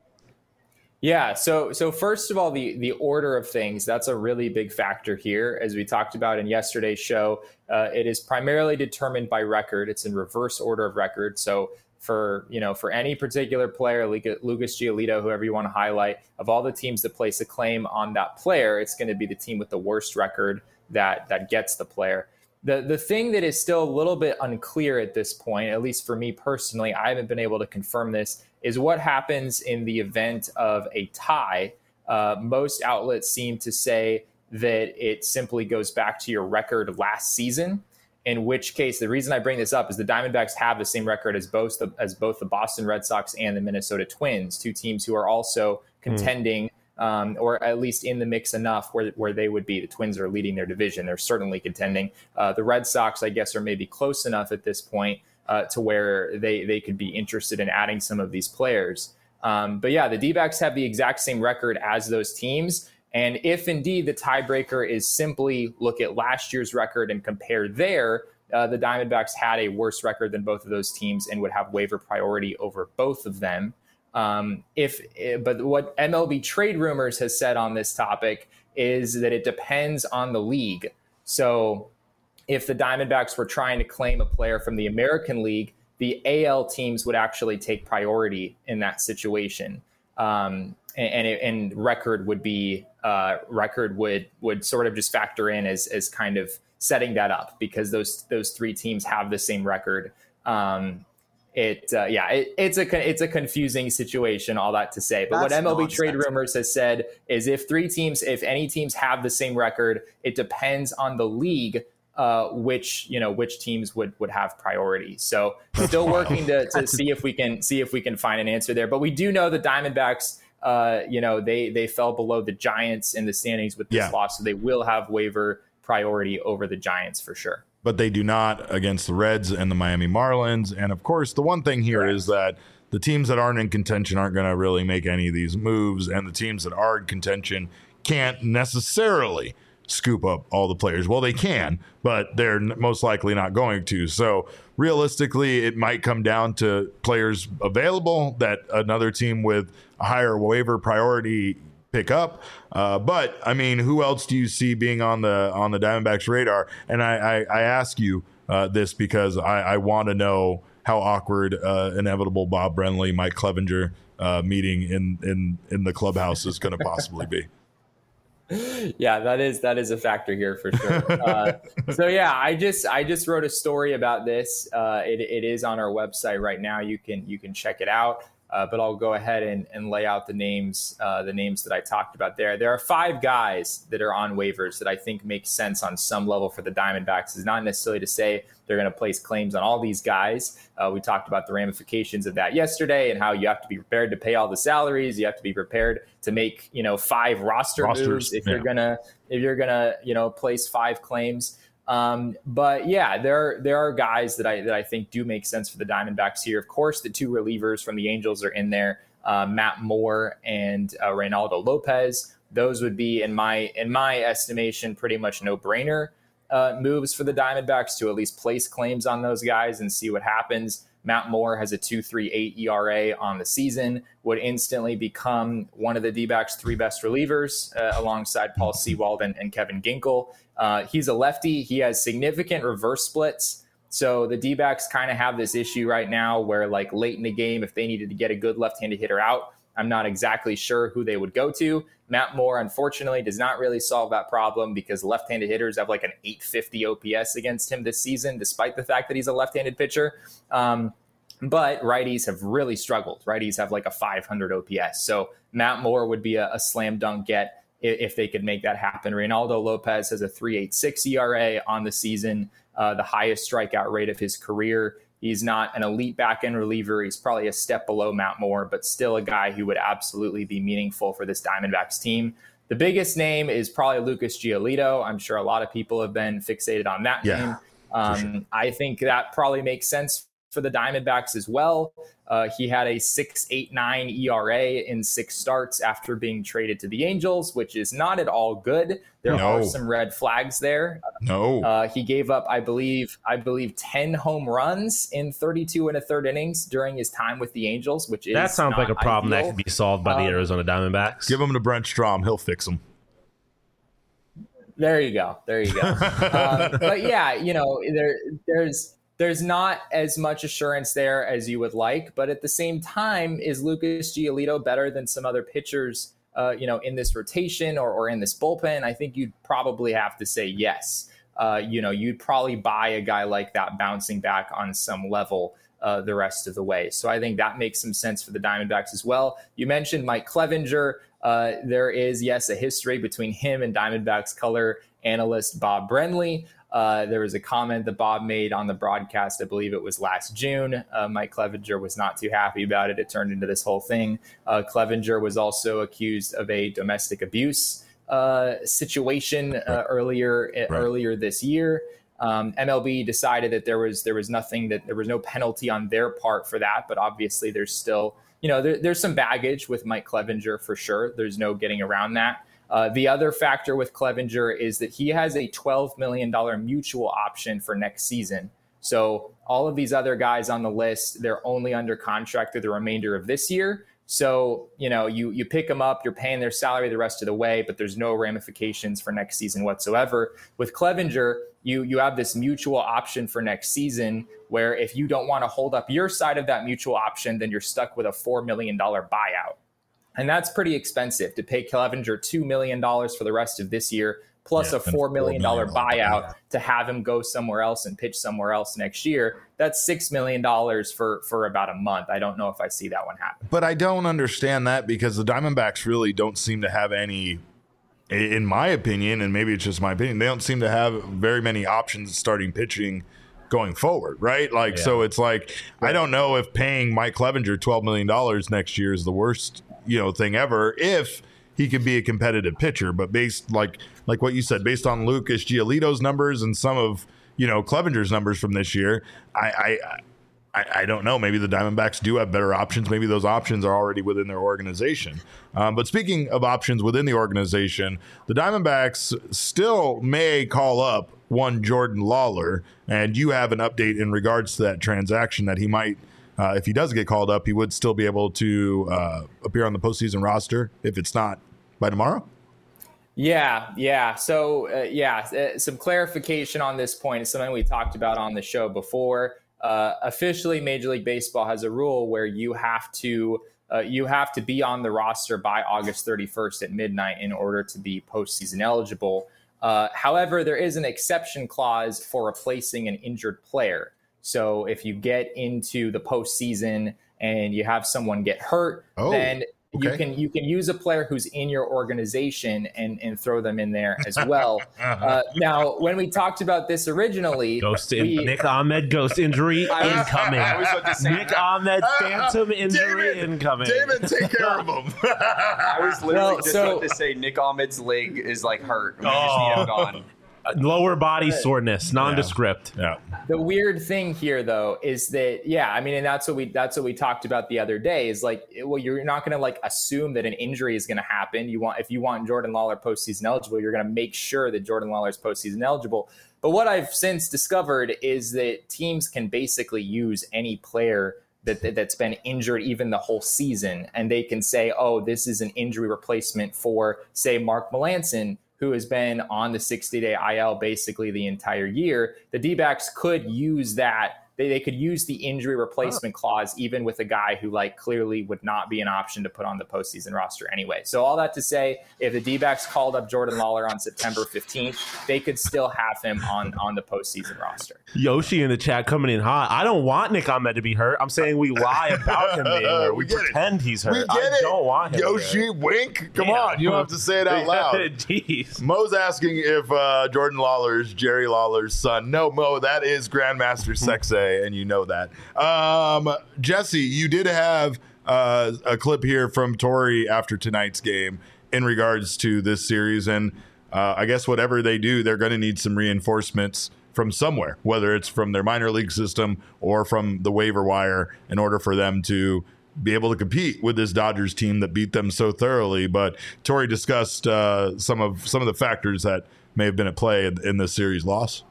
Yeah. So first of all, the order of things, that's a really big factor here. As we talked about in yesterday's show, it is primarily determined by record. It's in reverse order of record. So for any particular player, Lucas Giolito, whoever you want to highlight, of all the teams that place a claim on that player, it's going to be the team with the worst record that gets the player. The thing that is still a little bit unclear at this point, at least for me personally, I haven't been able to confirm this, is what happens in the event of a tie. Most outlets seem to say that it simply goes back to your record last season, in which case, the reason I bring this up is the Diamondbacks have the same record as both the Boston Red Sox and the Minnesota Twins, 2 teams who are also contending or at least in the mix enough where they would be. The Twins are leading their division. They're certainly contending. The Red Sox, I guess, are maybe close enough at this point to where they could be interested in adding some of these players. But yeah, the D-backs have the exact same record as those teams. And if indeed the tiebreaker is simply look at last year's record and compare there, the Diamondbacks had a worse record than both of those teams and would have waiver priority over both of them. But what MLB Trade Rumors has said on this topic is that it depends on the league. So if the Diamondbacks were trying to claim a player from the American League, the AL teams would actually take priority in that situation. And record would be would sort of just factor in as kind of setting that up, because those 3 teams have the same record. It's a confusing situation, all that to say. But what MLB Trade Rumors has said is if any teams have the same record, it depends on the league which teams would have priority. So still working to see if we can find an answer there. But we do know the Diamondbacks, they fell below the Giants in the standings with this loss, so they will have waiver priority over the Giants for sure.
But they do not against the Reds and the Miami Marlins. And of course, the one thing here is that the teams that aren't in contention aren't going to really make any of these moves. And the teams that are in contention can't necessarily scoop up all the players. Well, they can, but they're most likely not going to. So realistically, it might come down to players available that another team with a higher waiver priority pick up. But I mean, who else do you see being on the Diamondbacks radar? And I ask you this because I want to know how awkward inevitable Bob Brenly, Mike Clevinger meeting in the clubhouse is going to possibly be.
Yeah, that is a factor here for sure. So yeah, I just wrote a story about this. It is on our website right now. You can check it out. But I'll go ahead and lay out the names that I talked about there. There are 5 guys that are on waivers that I think make sense on some level for the Diamondbacks. It's not necessarily to say they're going to place claims on all these guys. We talked about the ramifications of that yesterday and how you have to be prepared to pay all the salaries. You have to be prepared to make 5 rosters moves if you're gonna place 5 claims. But yeah, there are guys that I think do make sense for the Diamondbacks here. Of course, the 2 relievers from the Angels are in there, Matt Moore and Reynaldo Lopez. Those would be, in my estimation, pretty much no-brainer moves for the Diamondbacks to at least place claims on those guys and see what happens. Matt Moore has a 2.38 ERA on the season, would instantly become one of the D-backs' 3 best relievers alongside Paul Sewald and Kevin Ginkel. He's a lefty. He has significant reverse splits. So the D-backs kind of have this issue right now where, like, late in the game, if they needed to get a good left-handed hitter out, I'm not exactly sure who they would go to. Matt Moore, unfortunately, does not really solve that problem because left-handed hitters have like an 850 OPS against him this season, despite the fact that he's a left-handed pitcher. But righties have really struggled. Righties have like a 500 OPS. So Matt Moore would be a slam dunk get if they could make that happen. Reynaldo Lopez has a 3.86 ERA on the season, the highest strikeout rate of his career. He's not an elite back-end reliever. He's probably a step below Matt Moore, but still a guy who would absolutely be meaningful for this Diamondbacks team. The biggest name is probably Lucas Giolito. I'm sure a lot of people have been fixated on that name. Sure. I think that probably makes sense for the Diamondbacks as well. He had a 6.89 ERA in 6 starts after being traded to the Angels, which is not at all good. There are some red flags there. He gave up, I believe 10 home runs in 32 1/3 innings during his time with the Angels, which is
that sounds like a problem that can be solved by the Arizona Diamondbacks.
Give him to Brent Strom. He'll fix them.
There you go. But yeah, there's not as much assurance there as you would like, but at the same time, is Lucas Giolito better than some other pitchers, in this rotation or in this bullpen? I think you'd probably have to say yes. You'd probably buy a guy like that bouncing back on some level the rest of the way. So I think that makes some sense for the Diamondbacks as well. You mentioned Mike Clevinger. There is, yes, a history between him and Diamondbacks color analyst Bob Brenly. There was a comment that Bob made on the broadcast, I believe it was last June. Mike Clevinger was not too happy about it. It turned into this whole thing. Clevinger was also accused of a domestic abuse situation earlier this year. MLB decided that there was nothing, that there was no penalty on their part for that, but obviously there's still, there's some baggage with Mike Clevinger for sure. There's no getting around that. The other factor with Clevinger is that he has a $12 million mutual option for next season. So all of these other guys on the list, they're only under contract through the remainder of this year. So, you pick them up, you're paying their salary the rest of the way, but there's no ramifications for next season whatsoever. With Clevinger, you have this mutual option for next season where if you don't want to hold up your side of that mutual option, then you're stuck with a $4 million buyout. And that's pretty expensive to pay Clevinger $2 million for the rest of this year, plus a $4 million buyout to have him go somewhere else and pitch somewhere else next year. That's $6 million for about a month. I don't know if I see that one happen.
But I don't understand that because the Diamondbacks really don't seem to have any, in my opinion, and maybe it's just my opinion, they don't seem to have very many options starting pitching going forward, right? So it's like, I don't know if paying Mike Clevinger $12 million next year is the worst thing ever if he could be a competitive pitcher. But based like what you said, based on Lucas Giolito's numbers and some of Clevinger's numbers from this year, I don't know. Maybe the Diamondbacks do have better options. Maybe those options are already within their organization. But speaking of options within the organization, the Diamondbacks still may call up one Jordan Lawler, and you have an update in regards to that transaction that he might, if he does get called up, he would still be able to appear on the postseason roster if it's not by tomorrow?
Yeah. So, some clarification on this point is something we talked about on the show before. Officially, Major League Baseball has a rule where you have to be on the roster by August 31st at midnight in order to be postseason eligible. However, there is an exception clause for replacing an injured player. So if you get into the postseason and you have someone get hurt, then okay, you can use a player who's in your organization and throw them in there as well. Now, when we talked about this originally,
Nick Ahmed ghost injury incoming. Nick Ahmed phantom injury incoming.
David, take care of him.
I was literally about to say Nick Ahmed's leg is like hurt. We just need him gone.
Lower body soreness, nondescript.
Yeah.
The weird thing here, though, is that and that's what we talked about the other day. Is like, well, you're not going to like assume that an injury is going to happen. If you want Jordan Lawlar postseason eligible, you're going to make sure that Jordan Lawlar is postseason eligible. But what I've since discovered is that teams can basically use any player that's been injured even the whole season, and they can say, oh, this is an injury replacement for, say, Mark Melancon, who has been on the 60-day IL basically the entire year. The D-backs could use that. They could use the injury replacement clause even with a guy who like clearly would not be an option to put on the postseason roster anyway. So all that to say, if the D-backs called up Jordan Lawlar on September 15th, they could still have him on the postseason roster.
Yoshi in the chat coming in hot. I don't want Nick Ahmed to be hurt. I'm saying we lie about him being hurt. We pretend he's hurt. I don't want him.
Yoshi, wink. Come on. You don't have to say it out loud.
Jeez.
Mo's asking if Jordan Lawler is Jerry Lawler's son. No, Mo, that is Grandmaster Sexay. And you know that. Jesse, you did have a clip here from Torey after tonight's game in regards to this series. And I guess whatever they do, they're going to need some reinforcements from somewhere, whether it's from their minor league system or from the waiver wire, in order for them to be able to compete with this Dodgers team that beat them so thoroughly. But Torey discussed some of the factors that may have been at play in this series loss.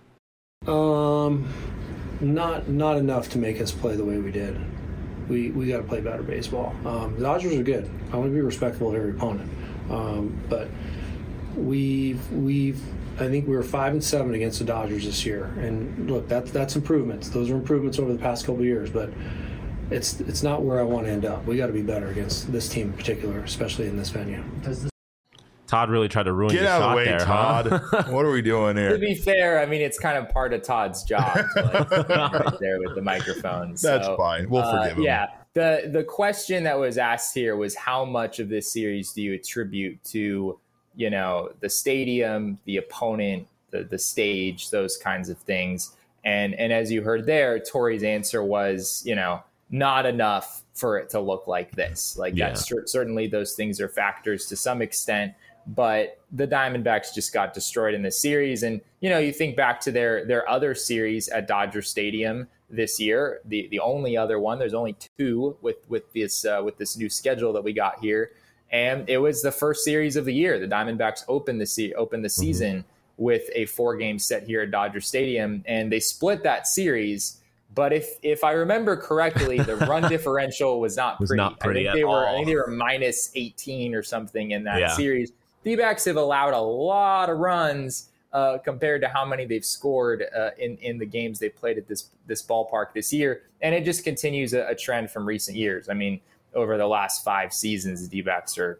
Not enough to make us play the way we did. We got to play better baseball. The Dodgers are good. I want to be respectful of every opponent, but I think we were 5-7 against the Dodgers this year. And look, that's improvements. Those are improvements over the past couple of years, but it's not where I want to end up. We got to be better against this team in particular, especially in this venue.
Todd really tried to ruin your shot. Get out of the way, there,
Todd.
Huh?
What are we doing here?
To be fair, I mean, it's kind of part of Todd's job to right there with the microphone.
That's fine. We'll forgive him.
Yeah. The question that was asked here was, how much of this series do you attribute to, the stadium, the opponent, the stage, those kinds of things? And as you heard there, Torey's answer was, not enough for it to look like this. That's certainly those things are factors to some extent. But the Diamondbacks just got destroyed in this series. And, you think back to their other series at Dodger Stadium this year, the only other one, there's only two with this new schedule that we got here. And it was the first series of the year. The Diamondbacks opened the season with a 4-game set here at Dodger Stadium, and they split that series. But if I remember correctly, the run differential was not pretty. I think they were minus 18 or something in that series. D-backs have allowed a lot of runs compared to how many they've scored in the games they played at this ballpark this year. And it just continues a trend from recent years. I mean, over the last 5 seasons, the D-backs are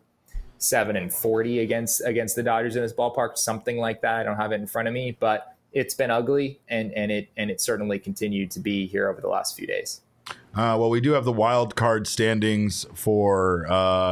7-40 against the Dodgers in this ballpark, something like that. I don't have it in front of me, but it's been ugly, and it certainly continued to be here over the last few days.
Well, we do have the wild card standings for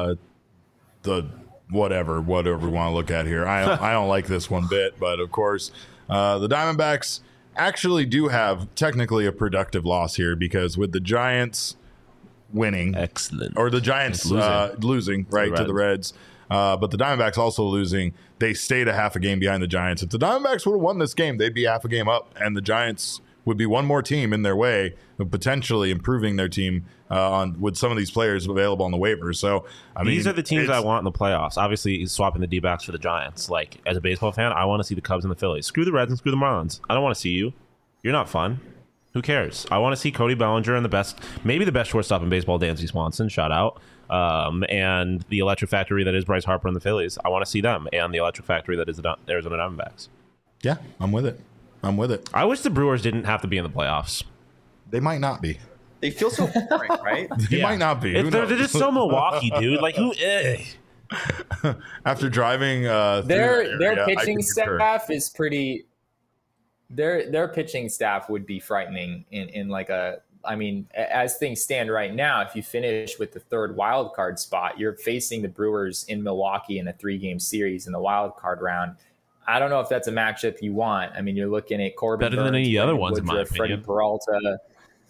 the whatever we want to look at here. I don't like this one bit, but of course, the Diamondbacks actually do have technically a productive loss here, because with the Giants winning, or the Giants losing right to the Reds, but the Diamondbacks also losing, they stayed a half a game behind the Giants. If the Diamondbacks would have won this game, they'd be half a game up, and the Giants would be one more team in their way of potentially improving their team with some of these players available on the waivers. So,
these are the teams I want in the playoffs. Obviously, swapping the D-backs for the Giants. Like, as a baseball fan, I want to see the Cubs and the Phillies. Screw the Reds and screw the Marlins. I don't want to see you. You're not fun. Who cares? I want to see Cody Bellinger and maybe the best shortstop in baseball, Dansby Swanson, shout out. And the electric factory that is Bryce Harper and the Phillies. I want to see them and the electric factory that is the Arizona Diamondbacks.
Yeah, I'm with it.
I wish the Brewers didn't have to be in the playoffs.
They might not be.
They feel so boring, right?
They might not be.
They're just so Milwaukee, dude. Like, who?
After driving
their pitching staff is pretty. Their pitching staff would be frightening in like a. I mean, as things stand right now, if you finish with the third wild card spot, you're facing the Brewers in Milwaukee in a 3-game series in the wild card round. I don't know if that's a matchup you want. I mean, you're looking at Corbin
better than any other ones, in my opinion.
Freddie Peralta.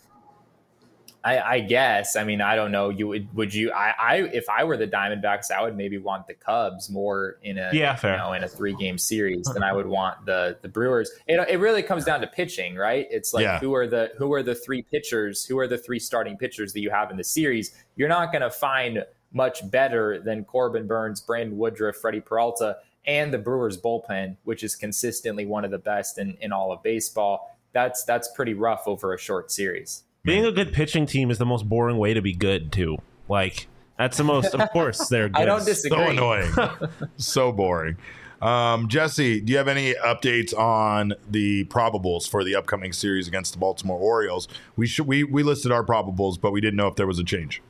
I guess. I mean, I don't know. Would you? If I were the Diamondbacks, I would maybe want the Cubs more in a in a 3-game series than I would want the Brewers. It really comes down to pitching, right? It's like who are the three pitchers? Who are the three starting pitchers that you have in the series? You're not going to find much better than Corbin Burnes, Brandon Woodruff, Freddie Peralta, and the Brewers bullpen, which is consistently one of the best in all of baseball. That's pretty rough over a short series.
Being a good pitching team is the most boring way to be good, too. Like, that's the most, of course, they're good.
I don't disagree.
So annoying. So boring. Jesse, do you have any updates on the probables for the upcoming series against the Baltimore Orioles? We listed our probables, but we didn't know if there was a change.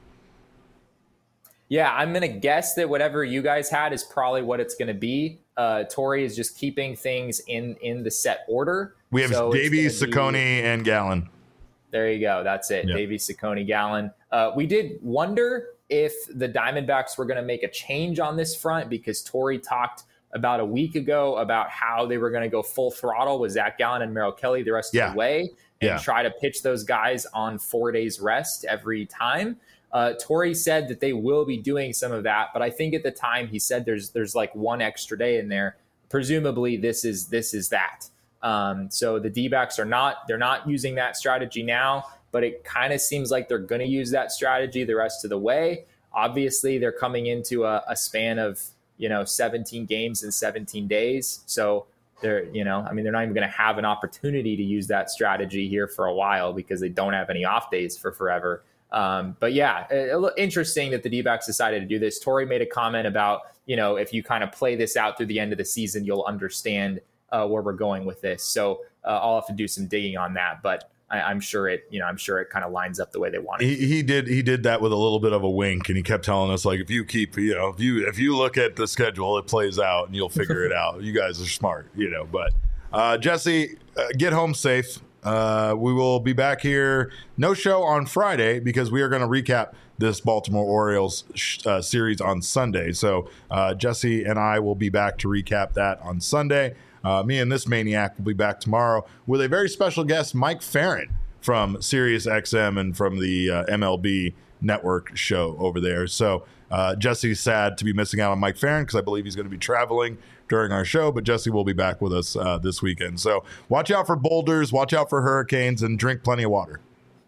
Yeah, I'm going to guess that whatever you guys had is probably what it's going to be. Torrey is just keeping things in the set order.
We have Davies, Ciccone, and Gallen.
There you go. That's it. Yep. Davies, Ciccone, Gallen. We did wonder if the Diamondbacks were going to make a change on this front because Torrey talked about a week ago about how they were going to go full throttle with Zach Gallen and Merrill Kelly the rest of the way and try to pitch those guys on 4 days rest every time. Torrey said that they will be doing some of that, but I think at the time he said there's like one extra day in there. Presumably this is that. So the D-backs they're not using that strategy now, but it kind of seems like they're going to use that strategy the rest of the way. Obviously they're coming into a span of, 17 games in 17 days. So they're not even going to have an opportunity to use that strategy here for a while because they don't have any off days for forever. But yeah, interesting that the D-backs decided to do this. Torrey made a comment about, if you kind of play this out through the end of the season, you'll understand where we're going with this. So I'll have to do some digging on that, but I'm sure it kind of lines up the way they want it.
He did that with a little bit of a wink, and he kept telling us like, if you look at the schedule, it plays out and you'll figure it out. You guys are smart, but Jesse, get home safe. We will be back here. No show on Friday because we are going to recap this Baltimore Orioles series on Sunday. So Jesse and I will be back to recap that on Sunday. Me and this maniac will be back tomorrow with a very special guest, Mike Farron from Sirius XM and from the MLB Network show over there. So Jesse's sad to be missing out on Mike Farron because I believe he's going to be traveling during our show, but Jesse will be back with us this weekend. So watch out for boulders, watch out for hurricanes, and drink plenty of water.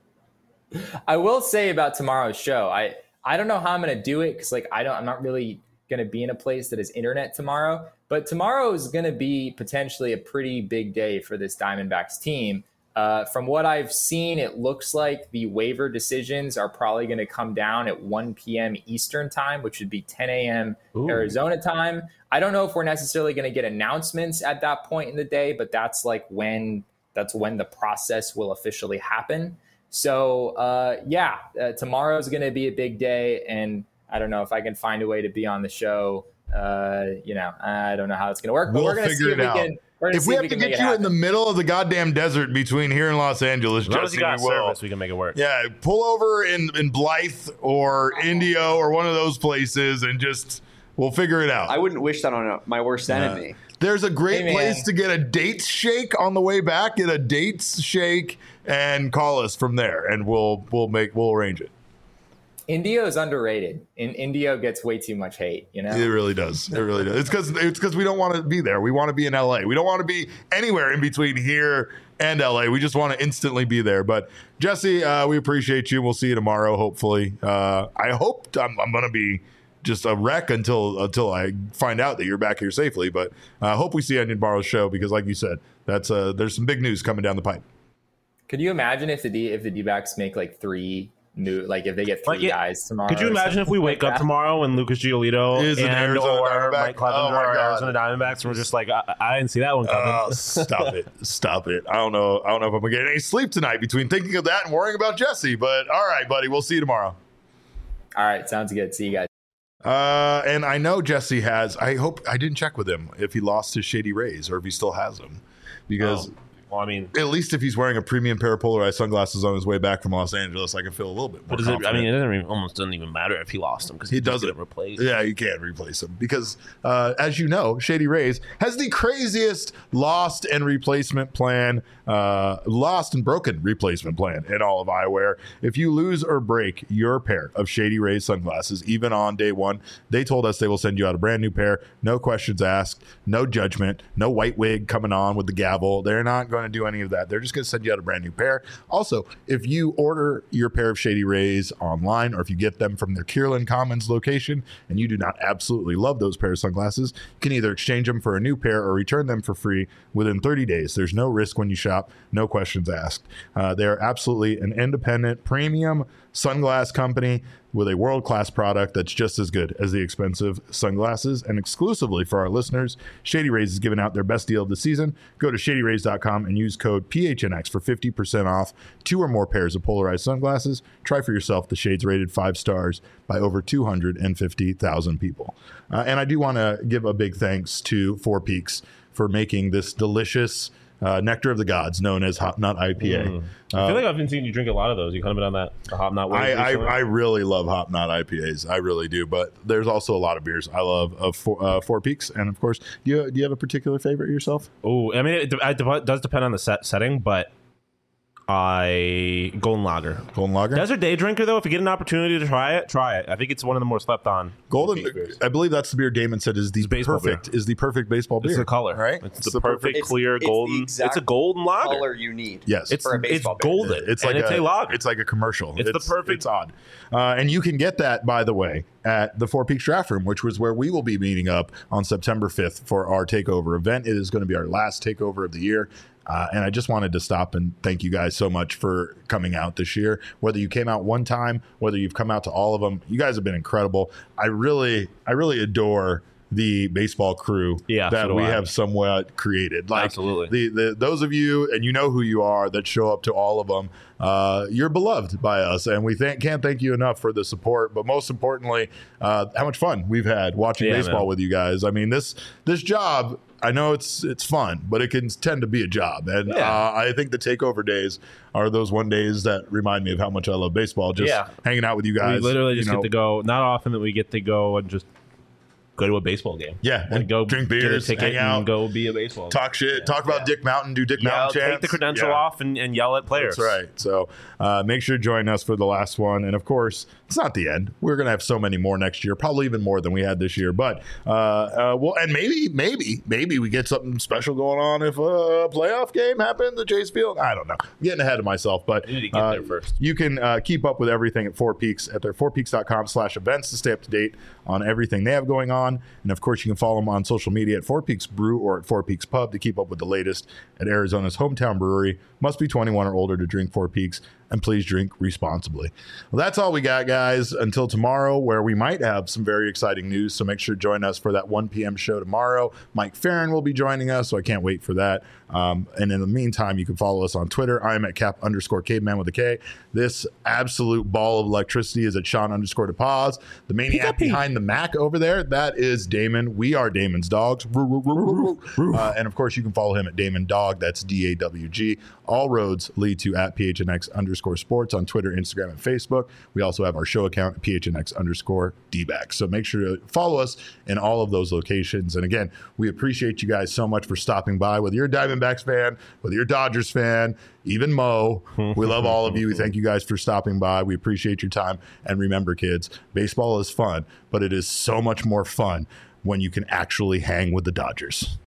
I will say about tomorrow's show, I don't know how I'm going to do it because I'm not really going to be in a place that is internet tomorrow, but tomorrow is going to be potentially a pretty big day for this Diamondbacks team. From what I've seen, it looks like the waiver decisions are probably going to come down at 1 p.m. Eastern time, which would be 10 a.m. Arizona time. I don't know if we're necessarily going to get announcements at that point in the day, but that's when the process will officially happen. So tomorrow is going to be a big day, and I don't know if I can find a way to be on the show. I don't know how it's going to work, but we're going to see if we can.
If we have to get you in the middle of the goddamn desert between here and Los Angeles, Jesse,
we can make it work.
Yeah, pull over in Blythe or Indio or one of those places and we'll figure it out.
I wouldn't wish that on my worst enemy.
There's a great place to get a dates shake on the way back. Get a dates shake and call us from there, and we'll arrange it.
Indio is underrated. Indio gets way too much hate,
It really does. It really does. It's because we don't want to be there. We want to be in LA. We don't want to be anywhere in between here and LA. We just want to instantly be there. But Jesse, we appreciate you. We'll see you tomorrow, hopefully. I hope I'm going to be just a wreck until I find out that you're back here safely. But I hope we see you on tomorrow's show because, like you said, there's some big news coming down the pipe.
Could you imagine if the D-backs make like three new, like if they get three guys tomorrow?
Could you imagine if we wake up tomorrow and Lucas Giolito
is an Arizona Diamondback?
Mike Clevenger are Arizona Diamondbacks, and we're just like, I didn't see that one coming.
Stop it! I don't know if I'm gonna get any sleep tonight between thinking of that and worrying about Jesse. But all right, buddy, we'll see you tomorrow.
All right, sounds good. See you guys.
And I know Jesse has. I hope I didn't check with him if he lost his Shady Rays or if he still has them, because.
Well, I mean,
at least if he's wearing a premium pair of polarized sunglasses on his way back from Los Angeles, I can feel a little bit more confident.
It almost doesn't even matter if he lost them because he doesn't replace.
Yeah, you can't replace him because, as you know, Shady Rays has the craziest lost and broken replacement plan in all of eyewear. If you lose or break your pair of Shady Rays sunglasses, even on day one, they told us they will send you out a brand new pair, no questions asked, no judgment, no white wig coming on with the gavel. They're not going to do any of that. They're just going to send you out a brand new pair. Also, if you order your pair of Shady Rays online, or if you get them from their Kierland Commons location and you do not absolutely love those pair of sunglasses, you can either exchange them for a new pair or return them for free within 30 days. There's no risk when you shop, no questions asked. They're absolutely an independent premium sunglass company with a world-class product that's just as good as the expensive sunglasses. And exclusively for our listeners, Shady Rays is giving out their best deal of the season. Go to shadyrays.com and use code PHNX for 50% off 2 or more pairs of polarized sunglasses. Try for yourself the shades rated 5 stars by over 250,000 people. And I do want to give a big thanks to Four Peaks for making this delicious Nectar of the Gods, known as Hop Knot IPA.
I feel like I've been seeing you drink a lot of those. You kind of been on that Hop Knot wave.
I really love Hop Knot IPAs. I really do. But there's also a lot of beers I love of Four Peaks. And of course, do you have a particular favorite yourself?
Oh, I mean, it does depend on the setting, but Golden Lager.
Golden Lager?
Desert Day Drinker, though, if you get an opportunity to try it. I think it's one of the more slept on.
Golden, I believe that's the beer Damon said is the perfect baseball beer.
It's the color,
right?
It's the perfect clear golden. It's a golden lager.
Color you need.
Yes,
for a baseball beer.
Golden.
It's like
a lager.
It's like a commercial.
It's the perfect.
It's odd, and you can get that, by the way, at the Four Peaks Draft Room, which was where we will be meeting up on September 5th for our takeover event. It is going to be our last takeover of the year. And I just wanted to stop and thank you guys so much for coming out this year. Whether you came out one time, whether you've come out to all of them, you guys have been incredible. I really adore the baseball crew that we have somewhat created. Like, absolutely. Those of you, and you know who you are, that show up to all of them, you're beloved by us, and we can't thank you enough for the support. But most importantly, how much fun we've had watching baseball with you guys. I mean, this job, I know it's fun, but it can tend to be a job. And I think the takeover days are those one days that remind me of how much I love baseball. Just hanging out with you guys.
We literally just get to go. Not often that we get to go and just go to a baseball game.
Yeah,
and go
drink beers,
get a ticket,
hang out,
and go be a baseball.
Talk shit, talk about Dick Mountain, do Dick Mountain chants.
Take the credential off and yell at players.
That's right. So make sure to join us for the last one. And of course, it's not the end. We're going to have so many more next year, probably even more than we had this year. But and maybe we get something special going on if a playoff game happens at Chase Field. I don't know. I'm getting ahead of myself, but
you need to get there first.
You can keep up with everything at Four Peaks at their fourpeaks.com/events to stay up to date on everything they have going on. And of course, you can follow them on social media at Four Peaks Brew or at Four Peaks Pub to keep up with the latest at Arizona's hometown brewery. Must be 21 or older to drink Four Peaks, and please drink responsibly. Well, that's all we got, guys, until tomorrow, where we might have some very exciting news. So make sure to join us for that 1 p.m. show tomorrow. Mike Farron will be joining us, so I can't wait for that. And in the meantime, you can follow us on Twitter. I am at Cap_caveman with a K. This absolute ball of electricity is at Sean_DePaz. The maniac behind the Mac over there, that is Damon. We are Damon's dogs. And of course, you can follow him at Damon Dog. That's DAWG. All roads lead to at PHNX_sports on Twitter, Instagram, and Facebook. We also have our show account at PHNX_DBAC. So make sure to follow us in all of those locations. And again, we appreciate you guys so much for stopping by. Whether you're a Diamondbacks fan, whether you're a Dodgers fan, even Mo, we love all of you. We thank you guys for stopping by. We appreciate your time. And remember, kids, baseball is fun, but it is so much more fun when you can actually hang with the Dodgers.